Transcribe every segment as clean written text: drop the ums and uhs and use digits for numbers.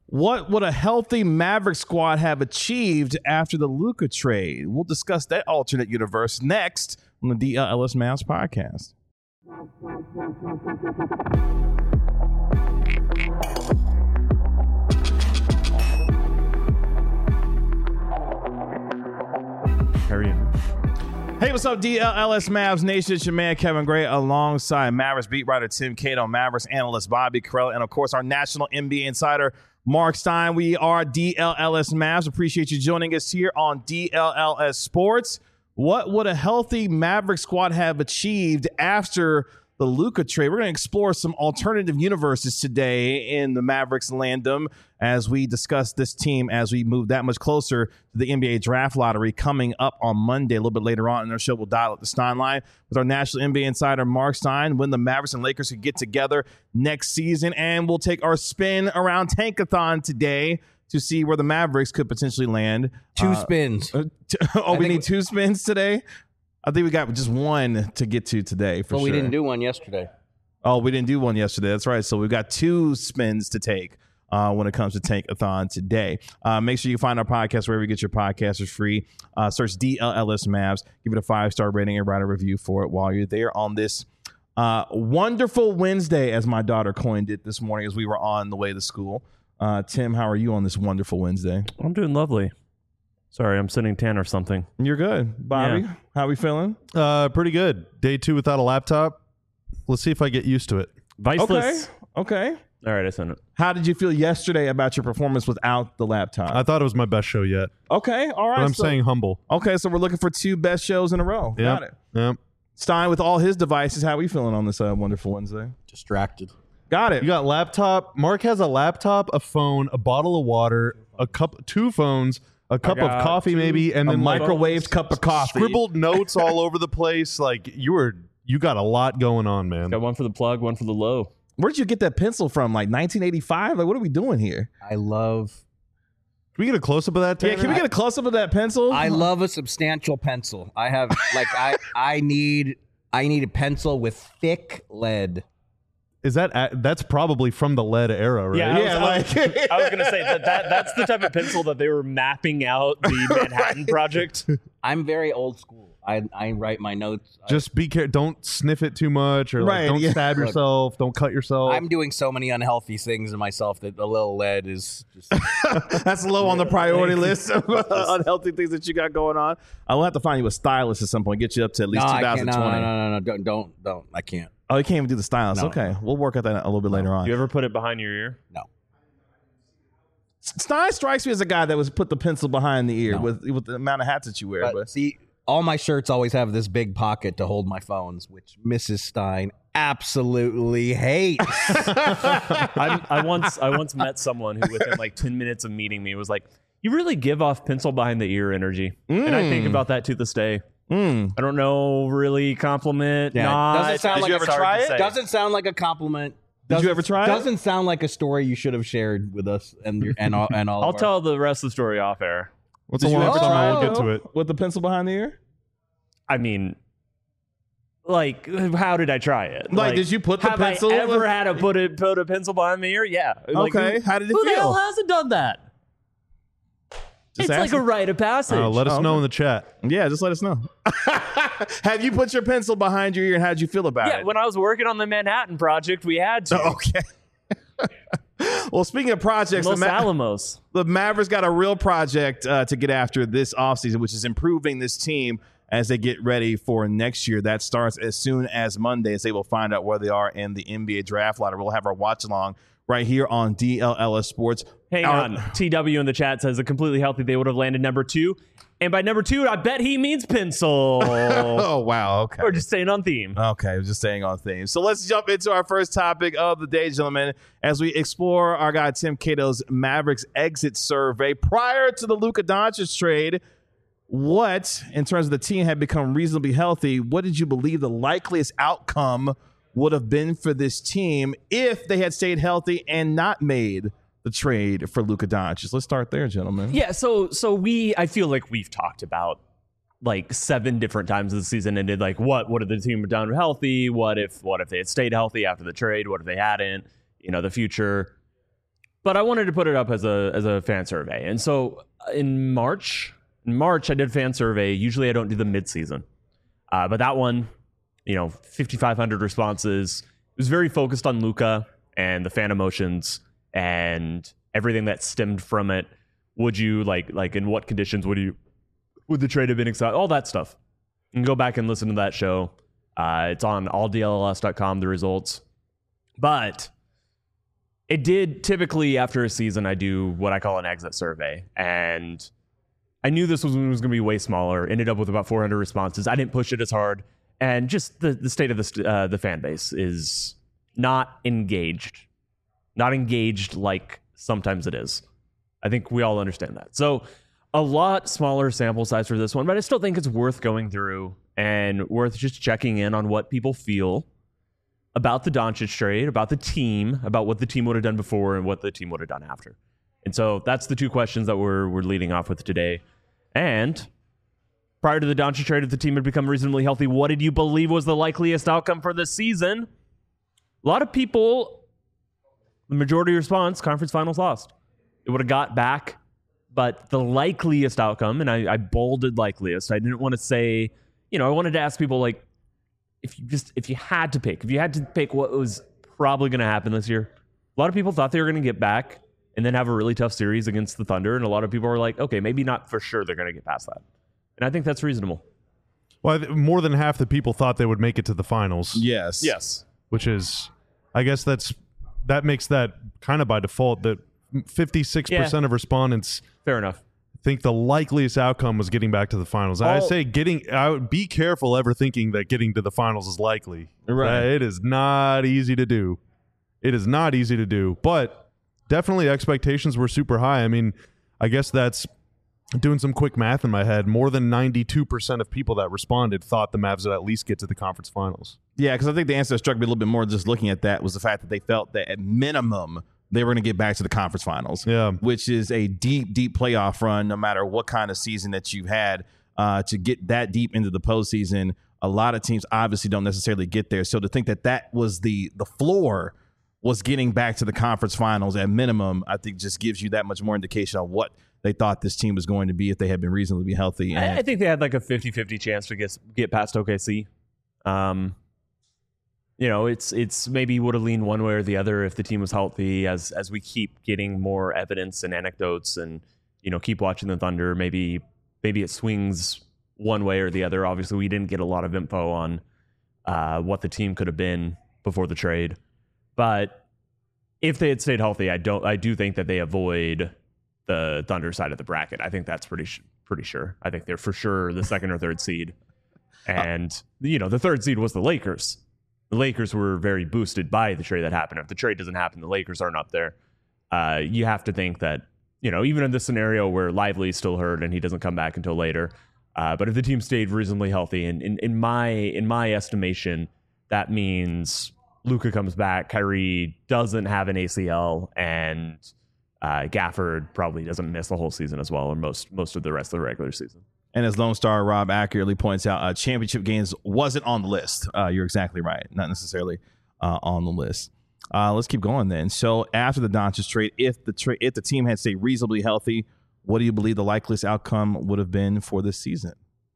What would a healthy Maverick squad have achieved after the Luka trade? We'll discuss that alternate universe next on the DLLS Mavs podcast. Hey, what's up, DLLS Mavs Nation? It's your man, Kevin Gray, alongside Mavericks beat writer Tim Cato, Mavericks analyst Bobby Carell, and, of course, our national NBA insider, Mark Stein. We are DLLS Mavs. Appreciate you joining us here on DLLS Sports. What would a healthy Maverick squad have achieved after the Luka trade? We're going to explore some alternative universes today in the Mavericks landom as we discuss this team as we move that much closer to the NBA draft lottery coming up on Monday. A little bit later on in our show, we'll dial up the Stein line with our national NBA insider, Mark Stein, when the Mavericks and Lakers could get together next season. And we'll take our spin around Tankathon today to see where the Mavericks could potentially land. Two spins. We need two spins today? I think we got just one to get to today for sure. We didn't do one yesterday. Oh, we didn't do one yesterday. That's right. So we've got two spins to take when it comes to Tankathon today. Make sure you find our podcast wherever you get your podcasts. It's free. Search DLLS Mavs. Give it a 5-star rating and write a review for it while you're there on this wonderful Wednesday, as my daughter coined it this morning as we were on the way to school. Tim, how are you on this wonderful Wednesday? I'm doing lovely. Sorry, I'm sitting tan or something. You're good. Bobby, How we feeling? Pretty good. Day 2 without a laptop. Let's see if I get used to it. Viceless. Okay. All right, I sent it. How did you feel yesterday about your performance without the laptop? I thought it was my best show yet. Okay, all right. But I'm saying humble. Okay, so we're looking for 2 best shows in a row. Yep. Got it. Yep. Stein, with all his devices, how are we feeling on this wonderful Wednesday? Distracted. Got it. You got laptop. Mark has a laptop, a phone, a bottle of water, a cup, 2 phones, a cup of coffee maybe, and then microwaved cup of coffee. Scribbled notes all over the place. Like you got a lot going on, man. Got one for the plug, one for the low. Where'd you get that pencil from? Like 1985? Like, what are we doing here? Can we get a close up of that, Tanner? Yeah, can we get a close up of that pencil? I love a substantial pencil. I have I need a pencil with thick lead. Is that's probably from the lead era, right? I was gonna say that's the type of pencil that they were mapping out the Manhattan Project. I'm very old school. I write my notes. Just be careful. Don't sniff it too much, or don't stab yourself. Don't cut yourself. I'm doing so many unhealthy things in myself that a little lead is just. That's low on the priority list of unhealthy things that you got going on. I will have to find you a stylist at some point. Get you up to at least 2020. No. Don't. I can't. Oh, you can't even do the stylist. No. Okay, we'll work at that a little bit later on. You ever put it behind your ear? No. Stein strikes me as a guy that was put the pencil behind the ear with the amount of hats that you wear. But see, all my shirts always have this big pocket to hold my phones, which Mrs. Stein absolutely hates. I once met someone who, within like 10 minutes of meeting me, was like, "You really give off pencil behind the ear energy," and I think about that to this day. I don't know, really compliment. Yeah, doesn't sound like you ever try it? Doesn't sound like a compliment. Did you ever try it? Doesn't sound like a story you should have shared with us and all. I'll tell the rest of the story off air. What's a long time? We'll get to it. With the pencil behind the ear? I mean, like, how did I try it? Like did you put the pencil? Have I ever had to put a pencil behind the ear? Yeah. Okay. How did it feel? Who the hell hasn't done that? It's like a rite of passage. Let us know in the chat. Yeah, just let us know. Have you put your pencil behind your ear, and how did you feel about it? Yeah, when I was working on the Manhattan Project, we had to. Okay. Well, speaking of projects, Los Alamos. The Mavericks got a real project to get after this offseason, which is improving this team as they get ready for next year. That starts as soon as Monday, as they will find out where they are in the NBA draft lottery. We'll have our watch along right here on DLLS Sports. Hang on. TW in the chat says, a completely healthy, they would have landed number 2. And by number 2, I bet he means pencil. Oh, wow. Okay. We're just staying on theme. Okay, we're just staying on theme. So let's jump into our first topic of the day, gentlemen, as we explore our guy Tim Cato's Mavericks exit survey. Prior to the Luka Doncic trade, what, in terms of the team, had become reasonably healthy? What did you believe the likeliest outcome would have been for this team if they had stayed healthy and not made the trade for Luka Doncic? Let's start there, gentlemen. Yeah, so I feel like we've talked about like 7 different times this season ended. Like, what would have the team done healthy? What if they had stayed healthy after the trade? What if they hadn't? You know, the future. But I wanted to put it up as a fan survey. And so in March, I did a fan survey. Usually I don't do the midseason. But that one, 5,500 responses. It was very focused on Luka and the fan emotions and everything that stemmed from it. Would you like in what conditions would the trade have been excited? All that stuff. You can go back and listen to that show. It's on alldlls.com, the results. But it did typically after a season, I do what I call an exit survey. And I knew this was going to be way smaller. Ended up with about 400 responses. I didn't push it as hard. And just the state of the fan base is not engaged. Not engaged like sometimes it is. I think we all understand that. So a lot smaller sample size for this one, but I still think it's worth going through and worth just checking in on what people feel about the Doncic trade, about the team, about what the team would have done before and what the team would have done after. And so that's the two questions that we're leading off with today. And prior to the Doncic trade, if the team had become reasonably healthy, what did you believe was the likeliest outcome for this season? A lot of people, the majority response, conference finals lost. It would have got back, but the likeliest outcome, and I bolded likeliest. I didn't want to say, I wanted to ask people like, if you had to pick what was probably going to happen this year. A lot of people thought they were going to get back and then have a really tough series against the Thunder, and a lot of people were like, okay, maybe not for sure they're going to get past that. And I think that's reasonable. Well, more than half the people thought they would make it to the finals. Yes. Which is, I guess that makes that kind of by default that 56% of respondents fair enough think the likeliest outcome was getting back to the finals. I say I would be careful ever thinking that getting to the finals is likely. Right. It is not easy to do. But definitely expectations were super high. I mean, I guess that's doing some quick math in my head. More than 92% of people that responded thought the Mavs would at least get to the conference finals. Yeah, because I think the answer that struck me a little bit more just looking at that was the fact that they felt that at minimum they were going to get back to the conference finals, which is a deep, deep playoff run no matter what kind of season that you've had. To get that deep into the postseason, a lot of teams obviously don't necessarily get there. So to think that was the floor was getting back to the conference finals at minimum, I think just gives you that much more indication of what they thought this team was going to be if they had been reasonably healthy. And I think they had like a 50-50 chance to get past OKC. It's maybe would have leaned one way or the other if the team was healthy. As we keep getting more evidence and anecdotes, and keep watching the Thunder, maybe it swings one way or the other. Obviously, we didn't get a lot of info on what the team could have been before the trade, but if they had stayed healthy, I do think that they avoid the Thunder side of the bracket. I think that's pretty sure. I think they're for sure the second or third seed, and the third seed was the Lakers. The Lakers were very boosted by the trade that happened. If the trade doesn't happen, the Lakers aren't up there. You have to think that, even in this scenario where Lively's still hurt and he doesn't come back until later, but if the team stayed reasonably healthy, and in my estimation, that means Luka comes back, Kyrie doesn't have an ACL, and Gafford probably doesn't miss the whole season as well, or most of the rest of the regular season. And as Lone Star Rob accurately points out, championship games wasn't on the list. You're exactly right. Not necessarily on the list. Let's keep going then. So after the Doncic trade, if the team had stayed reasonably healthy, what do you believe the likeliest outcome would have been for this season?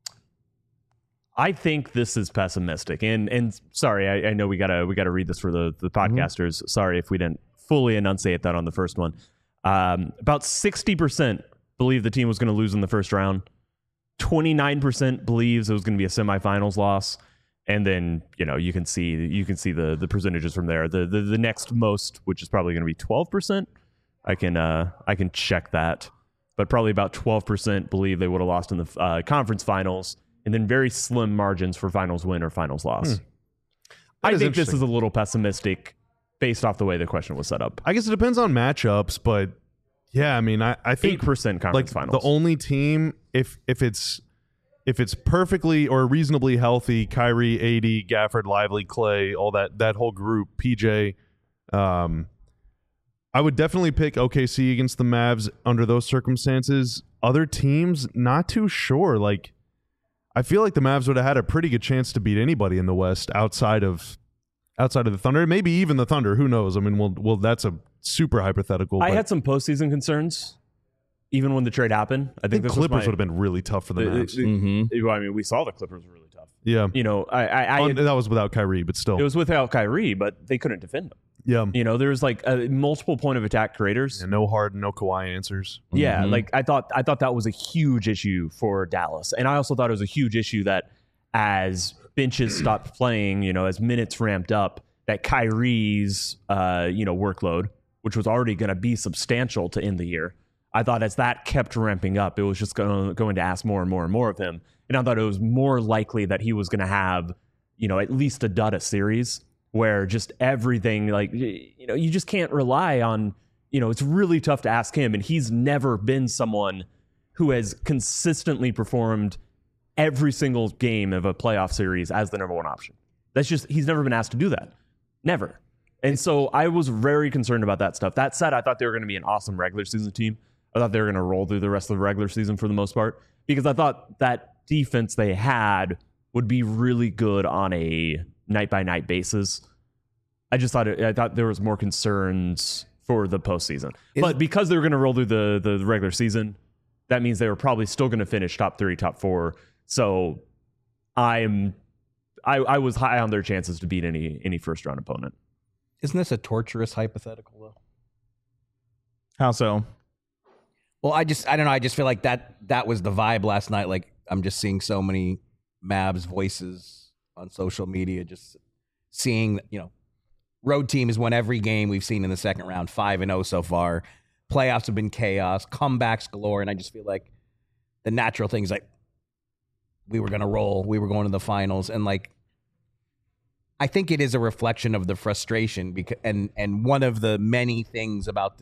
I think this is pessimistic. And sorry, I know we gotta read this for the podcasters. Mm-hmm. Sorry if we didn't fully enunciate that on the first one. About 60% believe the team was going to lose in the first round. 29% believes it was going to be a semifinals loss, and then you can see the percentages from there. The next most, which is probably going to be 12%. I can check that, but probably about 12% believe they would have lost in the conference finals, and then very slim margins for finals win or finals loss. I think this is a little pessimistic based off the way the question was set up. I guess it depends on matchups, but yeah, I mean, I think 8% conference finals. The only team, if it's perfectly or reasonably healthy, Kyrie, AD, Gafford, Lively, Clay, all that whole group, PJ, I would definitely pick OKC against the Mavs under those circumstances. Other teams, not too sure. Like, I feel like the Mavs would have had a pretty good chance to beat anybody in the West outside of the Thunder, maybe even the Thunder. Who knows? I mean, well, that's a super hypothetical. I but had some postseason concerns, even when the trade happened. I I think this Clippers was would have been really tough for the Mavs. I mean, we saw the Clippers were really tough. Yeah. You know, That was without Kyrie, but still. it was without Kyrie, but they couldn't defend them. Yeah. You know, there's like multiple point of attack creators. And no Harden, no Kawhi answers. Yeah, like I thought that was a huge issue for Dallas, and I also thought it was a huge issue that as benches stopped playing, you know, as minutes ramped up, that Kyrie's workload, which was already going to be substantial to end the year, I thought as that kept ramping up, it was just going to ask more and more and more of him, and I thought it was more likely that he was going to have, you know, at least a dud a series where just everything, like, you know, you just can't rely on. You know, it's really tough to ask him, and he's never been someone who has consistently performed every single game of a playoff series as the number one option. That's just, he's never been asked to do that. Never. And so I was very concerned about that stuff. That said, I thought they were going to be an awesome regular season team. I thought they were going to roll through the rest of the regular season for the most part, because I thought that defense they had would be really good on a night-by-night basis. I thought there was more concerns for the postseason. But because they were going to roll through the regular season, that means they were probably still going to finish top 3, top 4. So I was high on their chances to beat any first round opponent. Isn't this a torturous hypothetical though? How so? Well, I don't know. I just feel like that was the vibe last night. Like I'm just seeing so many Mavs voices on social media, just seeing, you know, road team has won every game we've seen in the second round, 5-0 so far. Playoffs have been chaos, comebacks galore, and I just feel like the natural thing is like we were going to roll, we were going to the finals, and like I think it is a reflection of the frustration because and one of the many things about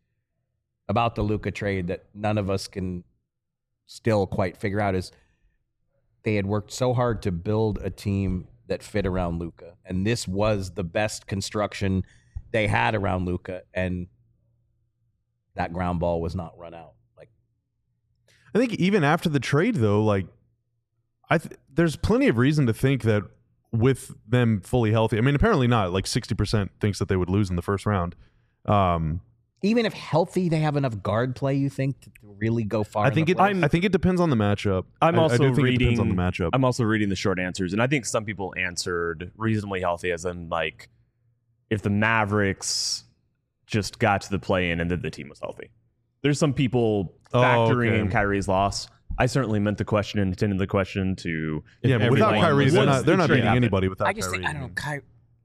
the Luka trade that none of us can still quite figure out is they had worked so hard to build a team that fit around Luka, and this was the best construction they had around Luka, and that ground ball was not run out. Like, I think even after the trade, though, like there's plenty of reason to think that with them fully healthy, I mean, apparently not. Like 60% thinks that they would lose in the first round. even if healthy, they have enough guard play. You think to really go far? I think it depends on the matchup. I do think reading. it depends on the matchup. I'm also reading the short answers, and I think some people answered reasonably healthy, as in like if the Mavericks just got to the play-in and then the team was healthy. There's some people factoring in Kyrie's loss. I certainly meant the question and intended the question to. Yeah, but without Kyrie, they're not beating anybody without Kyrie. I just think, I don't know,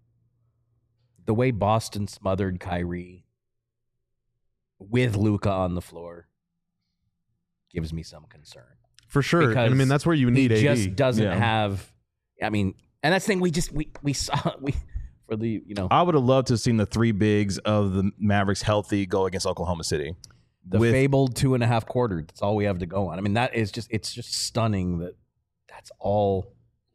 the way Boston smothered Kyrie with Luka on the floor gives me some concern. For sure. Because and I mean, that's where you need AD. He just doesn't have, I mean, and that's the thing we saw, for the, you know. I would have loved to have seen the three bigs of the Mavericks healthy go against Oklahoma City. The fabled 2.5 quarters. That's all we have to go on. I mean, it's just stunning that that's all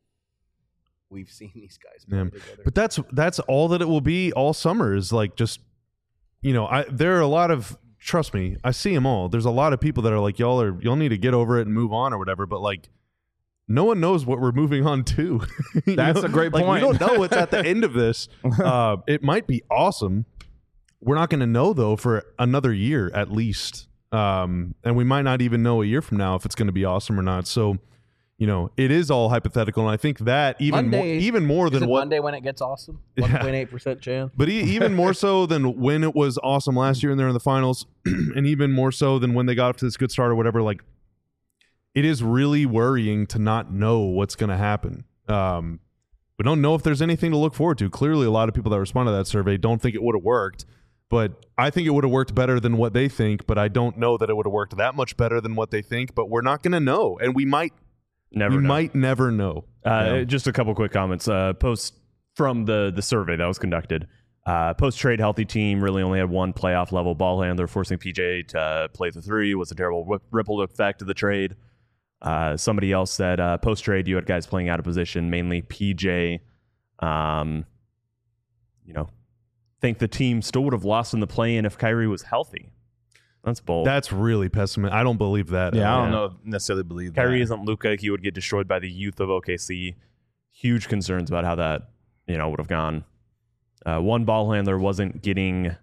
we've seen these guys play together. But that's all that it will be all summer is like just, you know, there are a lot of, trust me, I see them all. There's a lot of people that are like, y'all need to get over it and move on or whatever. But like, no one knows what we're moving on to. That's a great point. We don't know what's at the end of this. It might be awesome. We're not going to know, though, for another year at least. And we might not even know a year from now if it's going to be awesome or not. So, you know, it is all hypothetical. And I think that even more than what Monday when it gets awesome, 1.8% chance. But even more so than when it was awesome last year and they're in the finals, and even more so than when they got up to this good start or whatever, like, it is really worrying to not know what's going to happen. We don't know if there's anything to look forward to. Clearly, a lot of people that responded to that survey don't think it would have worked. But I think it would have worked better than what they think, but I don't know that it would have worked that much better than what they think, but we're not going to know, and we might never know. Just a couple quick comments. Post from the survey that was conducted. Post-trade healthy team really only had one playoff level ball handler, forcing PJ to play the three was a terrible ripple effect of the trade. Somebody else said post-trade you had guys playing out of position, mainly PJ. Think the team still would have lost in the play-in if Kyrie was healthy. That's bold. That's really pessimistic. I don't believe that. Yeah, I don't necessarily believe that. Kyrie isn't Luka. He would get destroyed by the youth of OKC. Huge concerns about how that would have gone. One ball handler wasn't getting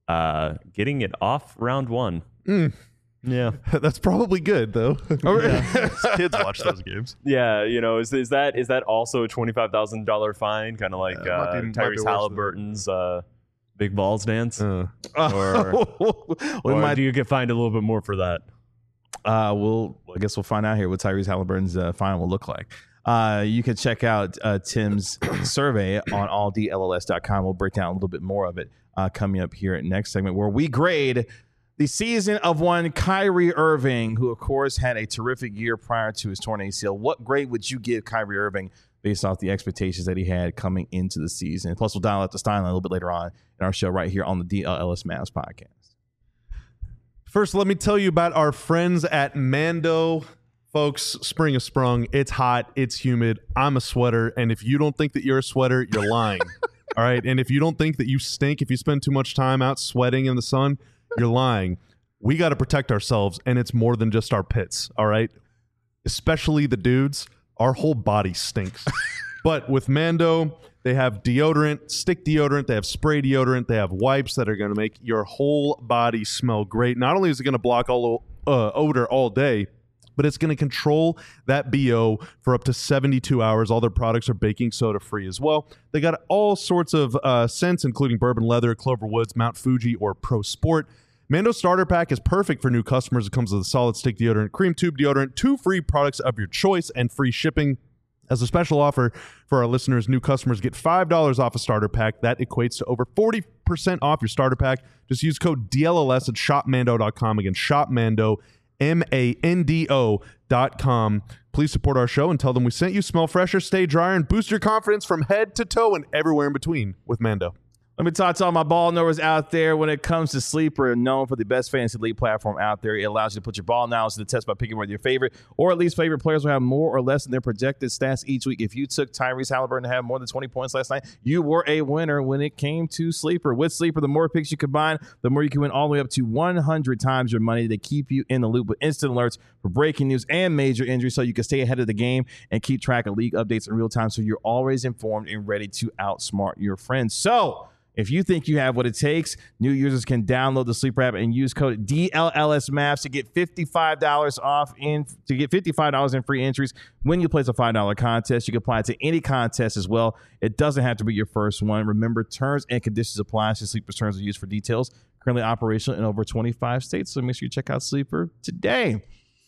getting it off round 1. Yeah. That's probably good though. Kids watch those games. Yeah, is that also a $25,000 fine, kind of like might be Tyrese worse Halliburton's big balls dance? Or We might. do you get fined a little bit more for that? I guess we'll find out here what Tyrese Halliburton's fine will look like. You can check out Tim's survey on alldlls.com. We'll break down a little bit more of it coming up here at next segment, where we grade the season of one Kyrie Irving, who, of course, had a terrific year prior to his torn ACL. What grade would you give Kyrie Irving based off the expectations that he had coming into the season? Plus, we'll dial out the Stein a little bit later on in our show right here on the DLLS Mavs podcast. First, let me tell you about our friends at Mando. Folks, spring has sprung. It's hot. It's humid. I'm a sweater. And if you don't think that you're a sweater, you're lying. All right? And if you don't think that you stink if you spend too much time out sweating in the sun, you're lying. We got to protect ourselves, and it's more than just our pits, all right? Especially the dudes. Our whole body stinks. But with Mando, they have deodorant, stick deodorant, they have spray deodorant, they have wipes that are going to make your whole body smell great. Not only is it going to block all odor all day, but it's going to control that BO for up to 72 hours. All their products are baking soda free as well. They got all sorts of scents, including bourbon leather, Clover Woods, Mount Fuji, or Pro Sport. Mando Starter Pack is perfect for new customers. It comes with a solid stick deodorant, cream tube deodorant, 2 free products of your choice, and free shipping. As a special offer for our listeners, new customers get $5 off a starter pack. That equates to over 40% off your starter pack. Just use code DLLS at shopmando.com. Again, shopmando, MANDO.com. Please support our show and tell them we sent you. Smell fresher, stay drier, and boost your confidence from head to toe and everywhere in between with Mando. Let me talk to all my ball knowers out there. When it comes to Sleeper, known for the best fantasy league platform out there, it allows you to put your ball knowledge to the test by picking whether your favorite or at least favorite players will have more or less in their projected stats each week. If you took Tyrese Halliburton to have more than 20 points last night, you were a winner when it came to Sleeper. With Sleeper, the more picks you combine, the more you can win, all the way up to 100 times your money. They keep you in the loop with instant alerts for breaking news and major injuries, so you can stay ahead of the game and keep track of league updates in real time, so you're always informed and ready to outsmart your friends. So if you think you have what it takes, new users can download the Sleeper app and use code DLLSMavs to get $55 off $55 in free entries when you place a $5 contest. You can apply it to any contest as well. It doesn't have to be your first one. Remember, terms and conditions apply. So Sleeper's terms are used for details. Currently operational in over 25 states. So make sure you check out Sleeper today.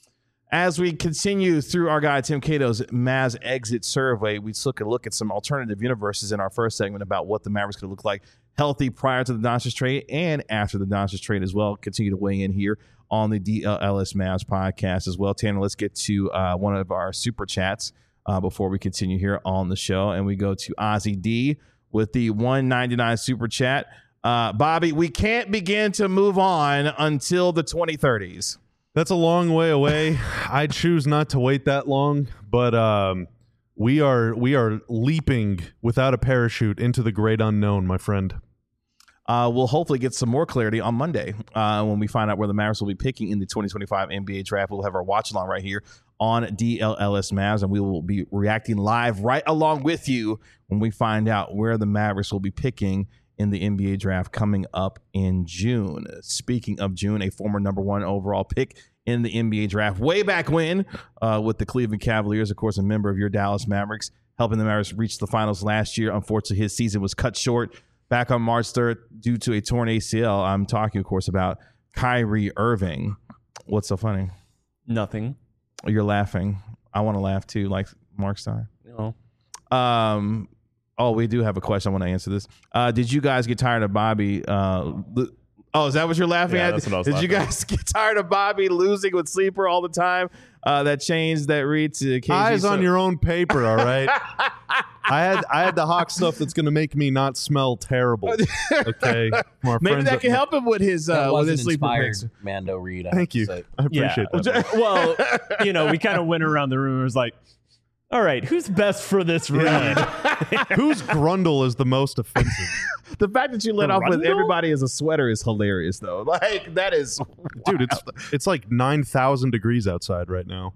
As we continue through our guy Tim Cato's Mavs exit survey, we took a look at some alternative universes in our first segment about what the Mavericks could look like healthy prior to the Doncic trade and after the Doncic trade as well. Continue to weigh in here on the DLLS Mavs podcast as well. Tanner, let's get to one of our super chats before we continue here on the show. And we go to Ozzy D with the $1.99 super chat. Bobby, we can't begin to move on until the 2030s. That's a long way away. I choose not to wait that long, but we are leaping without a parachute into the great unknown, my friend. We'll hopefully get some more clarity on Monday when we find out where the Mavericks will be picking in the 2025 NBA draft. We'll have our watch along right here on DLLS Mavs, and we will be reacting live right along with you when we find out where the Mavericks will be picking in the NBA draft coming up in June. Speaking of June, a former number 1 overall pick in the NBA draft way back when with the Cleveland Cavaliers, of course, a member of your Dallas Mavericks, helping the Mavericks reach the finals last year. Unfortunately, his season was cut short back on March 3rd due to a torn ACL. I'm talking, of course, about Kyrie Irving. What's so funny? Nothing. You're laughing. I want to laugh too, like Mark Stein. No. Oh, we do have a question. I want to answer this. Did you guys get tired of Bobby? Is that what you're laughing at? That's what I was Did you guys get tired of Bobby losing with Sleeper all the time? That change that read to KG. Eyes on your own paper, all right? I had the Hawk stuff that's going to make me not smell terrible. Okay, maybe that can help him with his Sleeper inspired picks. Mando read. Thank you. I appreciate that. Well, we kind of went around the room and was like, all right, who's best for this read? Whose grundle is the most offensive? The fact that you let off with everybody as a sweater is hilarious, though. Like, that is dude. It's like 9,000 degrees outside right now.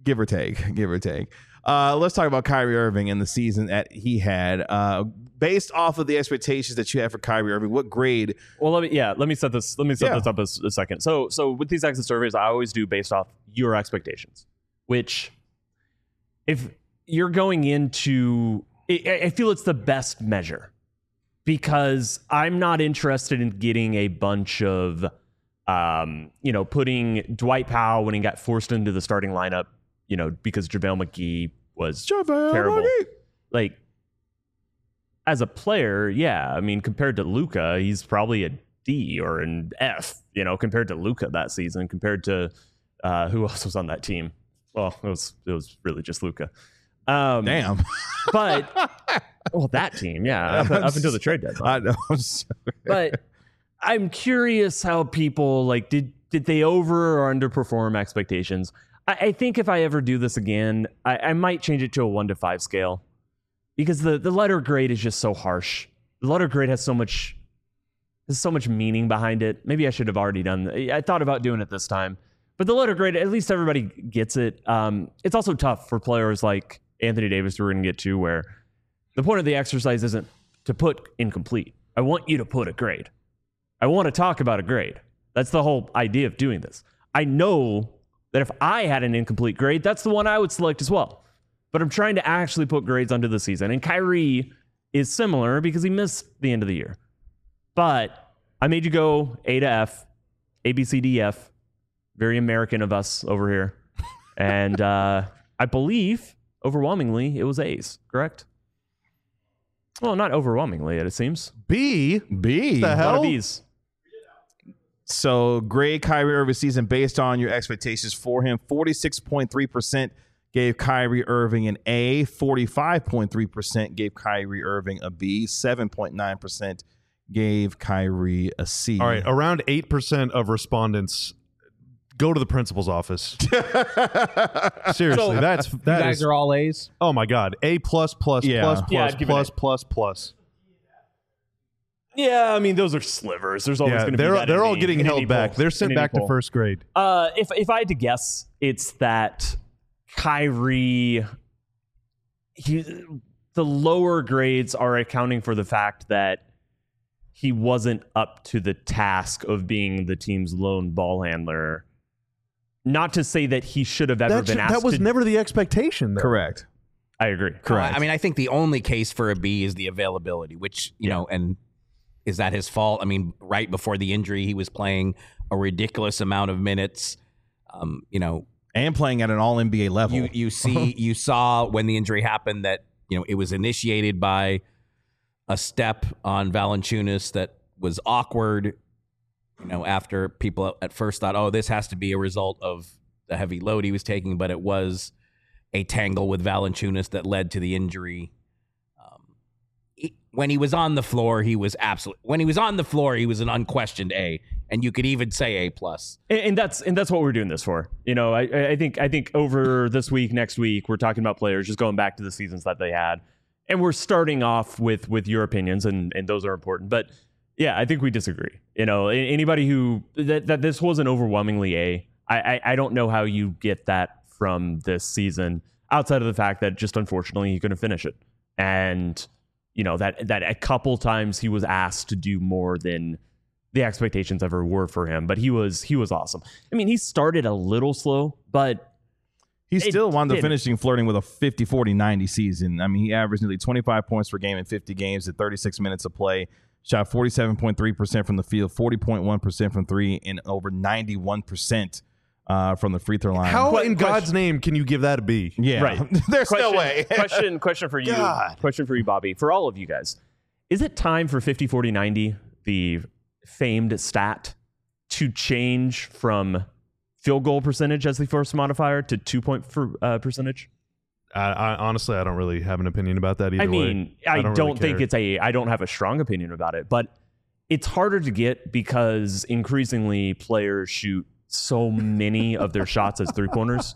Give or take. Let's talk about Kyrie Irving and the season that he had. Based off of the expectations that you had for Kyrie Irving, what grade? Well, let me set this up a second. So with these exit surveys, I always do based off your expectations, which if you're going into, I feel it's the best measure, because I'm not interested in getting a bunch of, putting Dwight Powell when he got forced into the starting lineup, because JaVale McGee was terrible. Like, as a player, yeah, I mean, compared to Luka, he's probably a D or an F, compared to Luka that season, compared to who else was on that team? Well, it was really just Luka. Damn. But that team, yeah, up until the trade deadline. I know. I'm sorry. But I'm curious how people did they over or underperform expectations? I think if I ever do this again, I might change it to a 1 to 5 scale, because the letter grade is just so harsh. The letter grade has so much meaning behind it. Maybe I should have already done. I thought about doing it this time, but the letter grade, at least everybody gets it. It's also tough for players like Anthony Davis, who we're going to get to, where the point of the exercise isn't to put incomplete. I want you to put a grade. I want to talk about a grade. That's the whole idea of doing this. I know that if I had an incomplete grade, that's the one I would select as well. But I'm trying to actually put grades onto the season. And Kyrie is similar because he missed the end of the year. But I made you go A to F, A, B, C, D, F. Very American of us over here. And I believe, overwhelmingly, it was A's, correct? Well, not overwhelmingly, it seems. B. The A lot hell? of B's. So grade Kyrie Irving season based on your expectations for him. 46.3% gave Kyrie Irving an A. 45.3% gave Kyrie Irving a B. 7.9% gave Kyrie a C. All right, around 8% of respondents go to the principal's office. Seriously, that You guys is. are all A's. Oh my God, A plus plus Yeah. plus Yeah, plus I'd give it plus an A. plus plus. Yeah, I mean, those are slivers. There's always Yeah, going to be that they're in all any- getting in held any back. poll. They're In sent any back to poll. first grade. If I had to guess, it's that Kyrie, the lower grades are accounting for the fact that he wasn't up to the task of being the team's lone ball handler. Not to say that he should have ever been asked That was to. never the expectation, though. Correct. I agree. Correct. I mean, I think the only case for a B is the availability, which, you know, and is that his fault? I mean, right before the injury, he was playing a ridiculous amount of minutes. And playing at an all NBA level. You saw when the injury happened that, it was initiated by a step on Valanciunas that was awkward, after people at first thought, oh, this has to be a result of the heavy load he was taking, but it was a tangle with Valanciunas that led to the injury. When he was on the floor, he was an unquestioned A, and you could even say A plus. And that's what we're doing this for. I think over this week, next week, we're talking about players just going back to the seasons that they had, and we're starting off with your opinions, and those are important. But yeah, I think we disagree. Anybody who that this wasn't overwhelmingly A. I don't know how you get that from this season outside of the fact that just unfortunately he couldn't finish it, and that a couple times he was asked to do more than the expectations ever were for him. But he was awesome. I mean, he started a little slow, but He still wound up didn't. finishing flirting with a 50-40-90 season. I mean, he averaged nearly 25 points per game in 50 games at 36 minutes of play. Shot 47.3% from the field, 40.1% from three, and over 91% from the free throw line. How in God's name can you give that a B? Yeah, Right. there's no way. Question for you. God. Question for you, Bobby. For all of you guys, is it time for 50-40-90, the famed stat, to change from field goal percentage as the first modifier to 2-point percentage? I honestly, I don't really have an opinion about that either I way. mean, I don't really think care. I don't have a strong opinion about it, but it's harder to get because increasingly players shoot so many of their shots as three-pointers.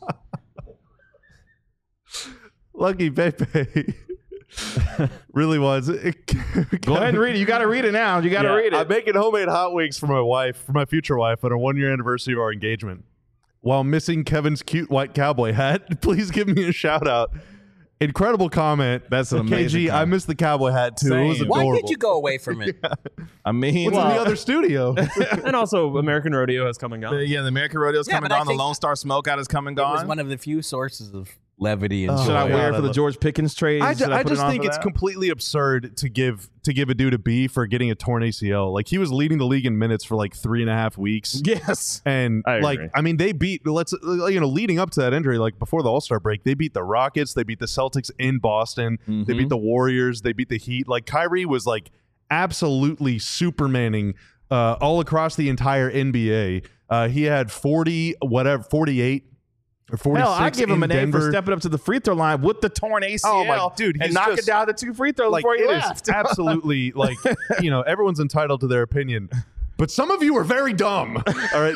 Lucky Pepe really was. Go ahead and read it. You got to read it now. You got to read it. I'm making homemade hot wings for my wife, for my future wife, on our 1-year anniversary of our engagement. while missing Kevin's cute white cowboy hat. Please give me a shout out. Incredible comment. That's an amazing KG, I comment. missed the cowboy hat too. It was Same. adorable. Why did you go away from it? I mean, What's in the other studio? And also, American Rodeo has come and gone. the American Rodeo's Yeah, coming but I gone. The think Lone Star Smokeout is coming It was gone. one of the few sources of levity and Oh, Should I joy. wear it yeah, for the that- George Pickens trade? I Should just put it on think for it's that? completely absurd to give a dude a B for getting a torn ACL. Like, he was leading the league in minutes for like 3.5 weeks. Yes. And I like, agree. I mean, they beat, leading up to that injury, like before the All-Star break, they beat the Rockets, they beat the Celtics in Boston, they beat the Warriors, they beat the Heat. Like, Kyrie was like absolutely supermaning all across the entire NBA. He had 48 or 46 Hell, I give him in an A Denver. for stepping up to the free throw line with the torn ACL. Oh, my- dude, and he's knocking just- down the 2 free throws Like, before he it is left. absolutely like, everyone's entitled to their opinion, but some of you are very dumb. All right,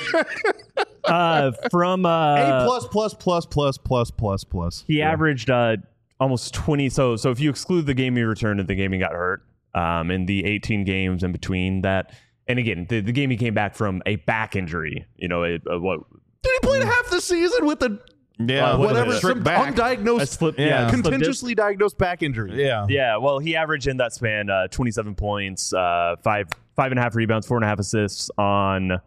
From A plus. he averaged almost 20. So if you exclude the game he returned and the game he got hurt, in the 18 games in between that, and again, the game he came back from a back injury. What? Dude, he played half the season with a Yeah, whatever, Strict some back. undiagnosed, Yeah. contentiously diagnosed back injury. Yeah. Yeah, well, he averaged in that span 27 points, 5.5 rebounds, 4.5 assists on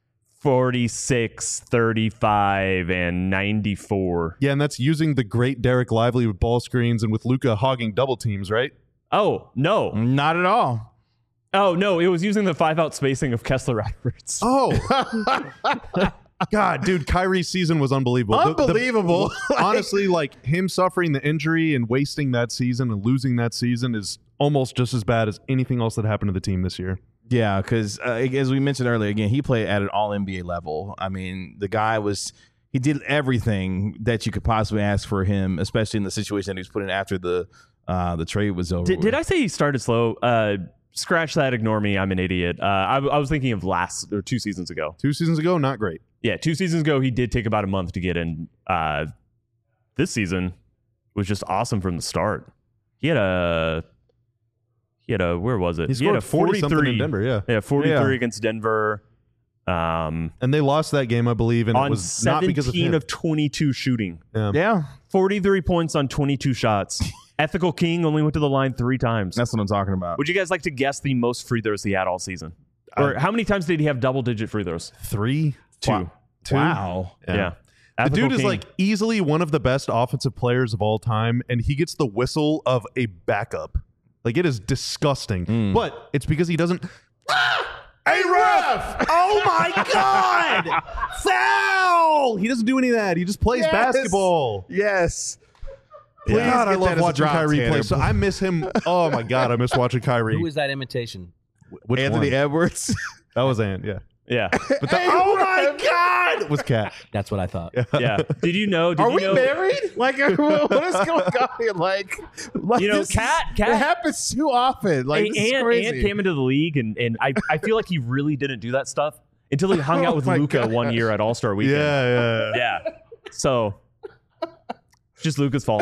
46, 35, and 94. Yeah, and that's using the great Derek Lively with ball screens and with Luka hogging double teams, right? Oh, no. Not at all. Oh, no, it was using the 5-out spacing of Kessler Edwards. Oh. God, dude, Kyrie's season was unbelievable. Unbelievable. Honestly, like, him suffering the injury and wasting that season and losing that season is almost just as bad as anything else that happened to the team this year. Yeah, because as we mentioned earlier, again, he played at an all NBA level. I mean, the guy he did everything that you could possibly ask for him, especially in the situation that he was put in after the trade was over. Did I say he started slow? Scratch that, ignore me, I'm an idiot. I was thinking of 2 seasons ago. 2 seasons ago, not great. Yeah, 2 seasons ago, he did take about a month to get in. This season was just awesome from the start. He had a where was it? He scored 40 something in Denver, yeah. Yeah, 43 Yeah. against Denver. And they lost that game, I believe, and it On was not because of 17 him. of 22 shooting. Yeah, 43 points on 22 shots. Ethical King only went to the line 3 times. that's what I'm talking about. Would you guys like to guess the most free throws he had all season? Or how many times did he have double-digit free throws? 3? 2. Wow. 2? Wow. Yeah. The Ethical dude is King. like easily one of the best offensive players of all time, and he gets the whistle of a backup. Like, it is disgusting. But it's because he doesn't. Hey, ref! Oh my God! Foul! He doesn't do any of that. He just plays basketball. Yes. Please God, I get that love as a watching drop, Kyrie Tanner. play. So I miss him. Oh my God, I miss watching Kyrie. Who was that imitation? Which Anthony one? Edwards. That was Ant, yeah. Yeah. But oh my God, it was Cat. That's what I thought. Yeah. Did you know? Are we know, married? Like, what is going on here? Like You know, this Cat- it happens too often. Like, this is Ant crazy. came into the league, and I feel like he really didn't do that stuff until he hung out with my Luka gosh. one year at All-Star Weekend. Yeah. Yeah. So, it's just Luka's fault.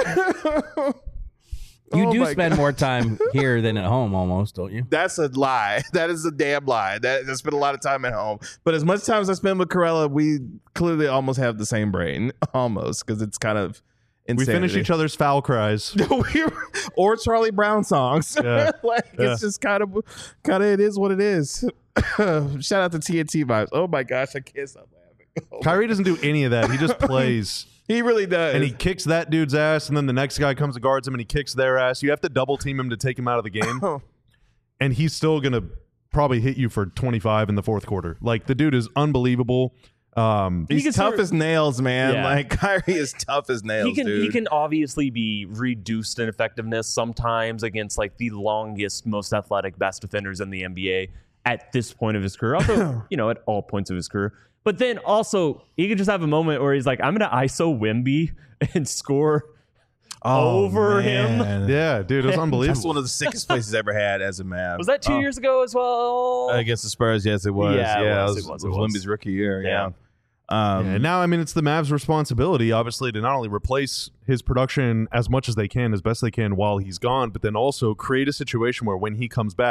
You Oh do my spend more time here than at home, almost, don't you? That's a lie. That is a damn lie. I spend a lot of time at home. But as much time as I spend with Corella, we clearly almost have the same brain. Almost. Because it's kind of We insanity. finish each other's foul cries. Or Charlie Brown songs. Yeah. It's just kind of it is what it is. Shout out to TNT vibes. Oh my gosh, I can't stop laughing. Oh, Kyrie doesn't do any of that. He just plays. he really does. And he kicks that dude's ass, and then the next guy comes and guards him, and he kicks their ass. You have to double team him to take him out of the game, and he's still gonna probably hit you for 25 in the fourth quarter. Like, the dude is unbelievable. He's tough as nails, man. Yeah. Like, Kyrie is tough as nails, He dude. can obviously be reduced in effectiveness sometimes against like the longest, most athletic, best defenders in the NBA at this point of his career. Also, at all points of his career. But then also, he could just have a moment where he's like, I'm going to ISO Wemby and score over him. man. Yeah, dude, it was unbelievable. That's one of the sickest places ever had as a man. Was that 2 years ago as well? Against the Spurs? Yes, it was. Yeah, it it was. was Wemby's rookie year. Yeah. And now, I mean, it's the Mavs' responsibility, obviously, to not only replace his production as much as they can, as best they can while he's gone, but then also create a situation where when he comes back,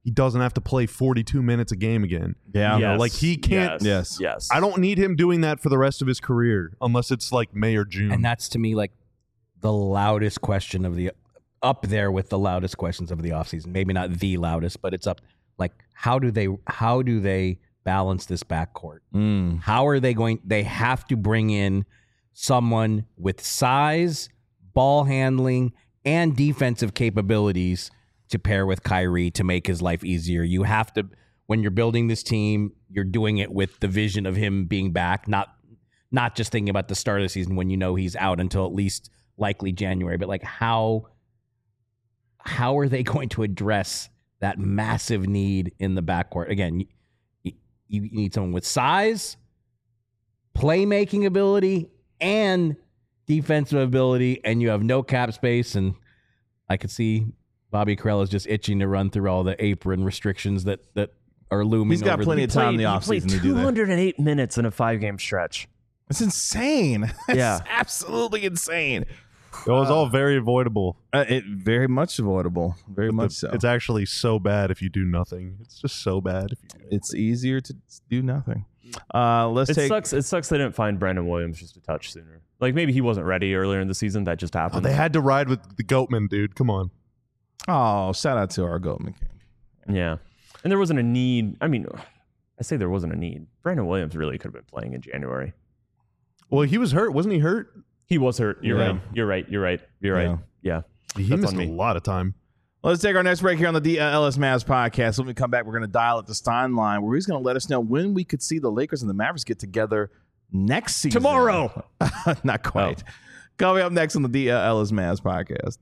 he doesn't have to play 42 minutes a game again. Yeah. You know, like he can't. Yes. I don't need him doing that for the rest of his career unless it's like May or June. And that's to me like the loudest question of the up there with the loudest questions of the offseason. Maybe not the loudest, but it's up. Like how do they balance this backcourt? How are they going? They have to bring in someone with size, ball handling, and defensive capabilities to pair with Kyrie to make his life easier. You have to, when you're building this team, you're doing it with the vision of him being back, not just thinking about the start of the season when you know he's out until at least likely January. But like how are they going to address that massive need in the backcourt? Again, you need someone with size, playmaking ability, and defensive ability, and you have no cap space. And I could see Bobby Karell is just itching to run through all the apron restrictions that are looming. He's got over plenty of time in the He offseason played to do that. 208 minutes in a 5-game stretch. It's insane. It's Yeah. absolutely insane. It was all very avoidable. It very much avoidable. Very much so. It's actually so bad if you do nothing. It's just so bad if you do. It's easier to do nothing. Let's It take. sucks they didn't find Brandon Williams just a touch sooner. Like maybe he wasn't ready earlier in the season. That just Oh, happened. they had to ride with the Goatman, dude. Come on. Oh, shout out to our Goldman King. Yeah. And there wasn't a need. I mean, I say there wasn't a need. Brandon Williams really could have been playing in January. Well, he was hurt. Wasn't he hurt? He was hurt. You're Yeah. right. You're right. Yeah. He That's missed on a me. lot of time. Let's take our next break here on the DLS Mavs podcast. When we come back, we're going to dial at the Stein line, where he's going to let us know when we could see the Lakers and the Mavericks get together next season. Tomorrow. Not quite. Coming up next on the DLS Mavs podcast.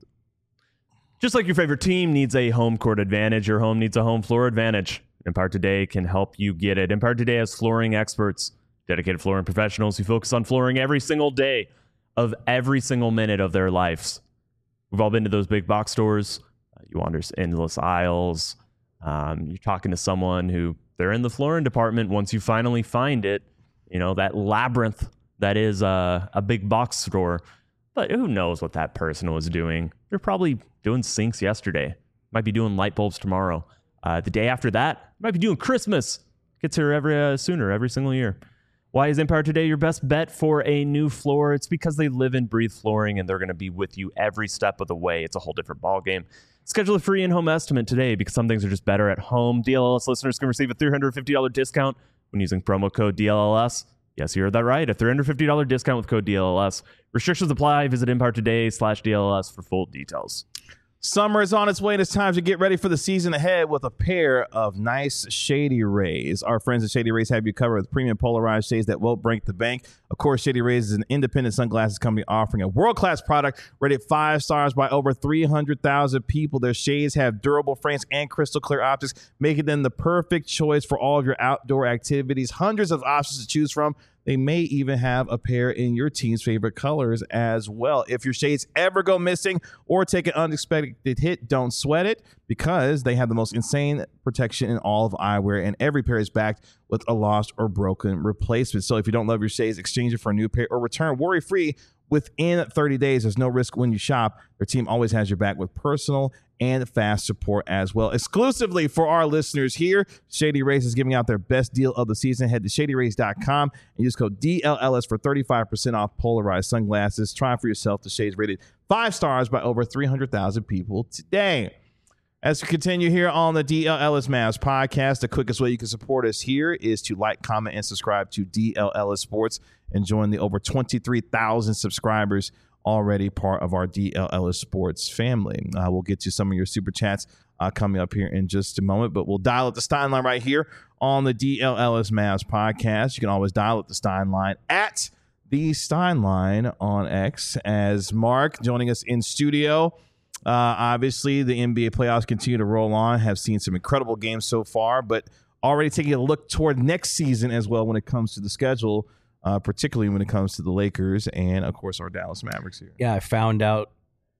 Just like your favorite team needs a home court advantage, your home needs a home floor advantage. Empire Today can help you get it. Empire Today has flooring experts, dedicated flooring professionals who focus on flooring every single day of every single minute of their lives. We've all been to those big box stores. You wander endless aisles. You're talking to someone who they're in the flooring department. Once you finally find it, you know, that labyrinth that is a big box store. But who knows what that person was doing? They're probably doing sinks yesterday. Might be doing light bulbs tomorrow. The day after that, might be doing Christmas. Gets here every single year. Why is Empire Today your best bet for a new floor? It's because they live and breathe flooring, and they're going to be with you every step of the way. It's a whole different ballgame. Schedule a free in-home estimate today because some things are just better at home. DLLS listeners can receive a $350 discount when using promo code DLLS. Yes, you heard that right. A $350 discount with code DLLS. Restrictions apply. Visit EmpireToday.com/DLLS for full details. Summer is on its way, and it's time to get ready for the season ahead with a pair of nice Shady Rays. Our friends at Shady Rays have you covered with premium polarized shades that won't break the bank. Of course, Shady Rays is an independent sunglasses company offering a world-class product rated 5 stars by over 300,000 people. Their shades have durable frames and crystal clear optics, making them the perfect choice for all of your outdoor activities. Hundreds of options to choose from. They may even have a pair in your team's favorite colors as well. If your shades ever go missing or take an unexpected hit, don't sweat it because they have the most insane protection in all of eyewear, and every pair is backed with a lost or broken replacement. So if you don't love your shades, exchange it for a new pair or return worry-free within 30 days. There's no risk when you shop. Their team always has your back with personal and fast support as well. Exclusively for our listeners here, Shady Rays is giving out their best deal of the season. Head to ShadyRays.com and use code DLLS for 35% off polarized sunglasses. Try for yourself the shades rated 5 stars by over 300,000 people today. As we continue here on the DLLS Mavs podcast, the quickest way you can support us here is to like, comment, and subscribe to DLLS Sports and join the over 23,000 subscribers already part of our DLLS Sports family. We'll get to some of your super chats coming up here in just a moment, but we'll dial at the Stein line right here on the DLLS Mavs podcast. You can always dial at the Stein line at the Stein line on X. As Mark joining us in studio. Obviously, the NBA playoffs continue to roll on. Have seen some incredible games so far, but already taking a look toward next season as well when it comes to the schedule, particularly when it comes to the Lakers and, of course, our Dallas Mavericks here. Yeah, I found out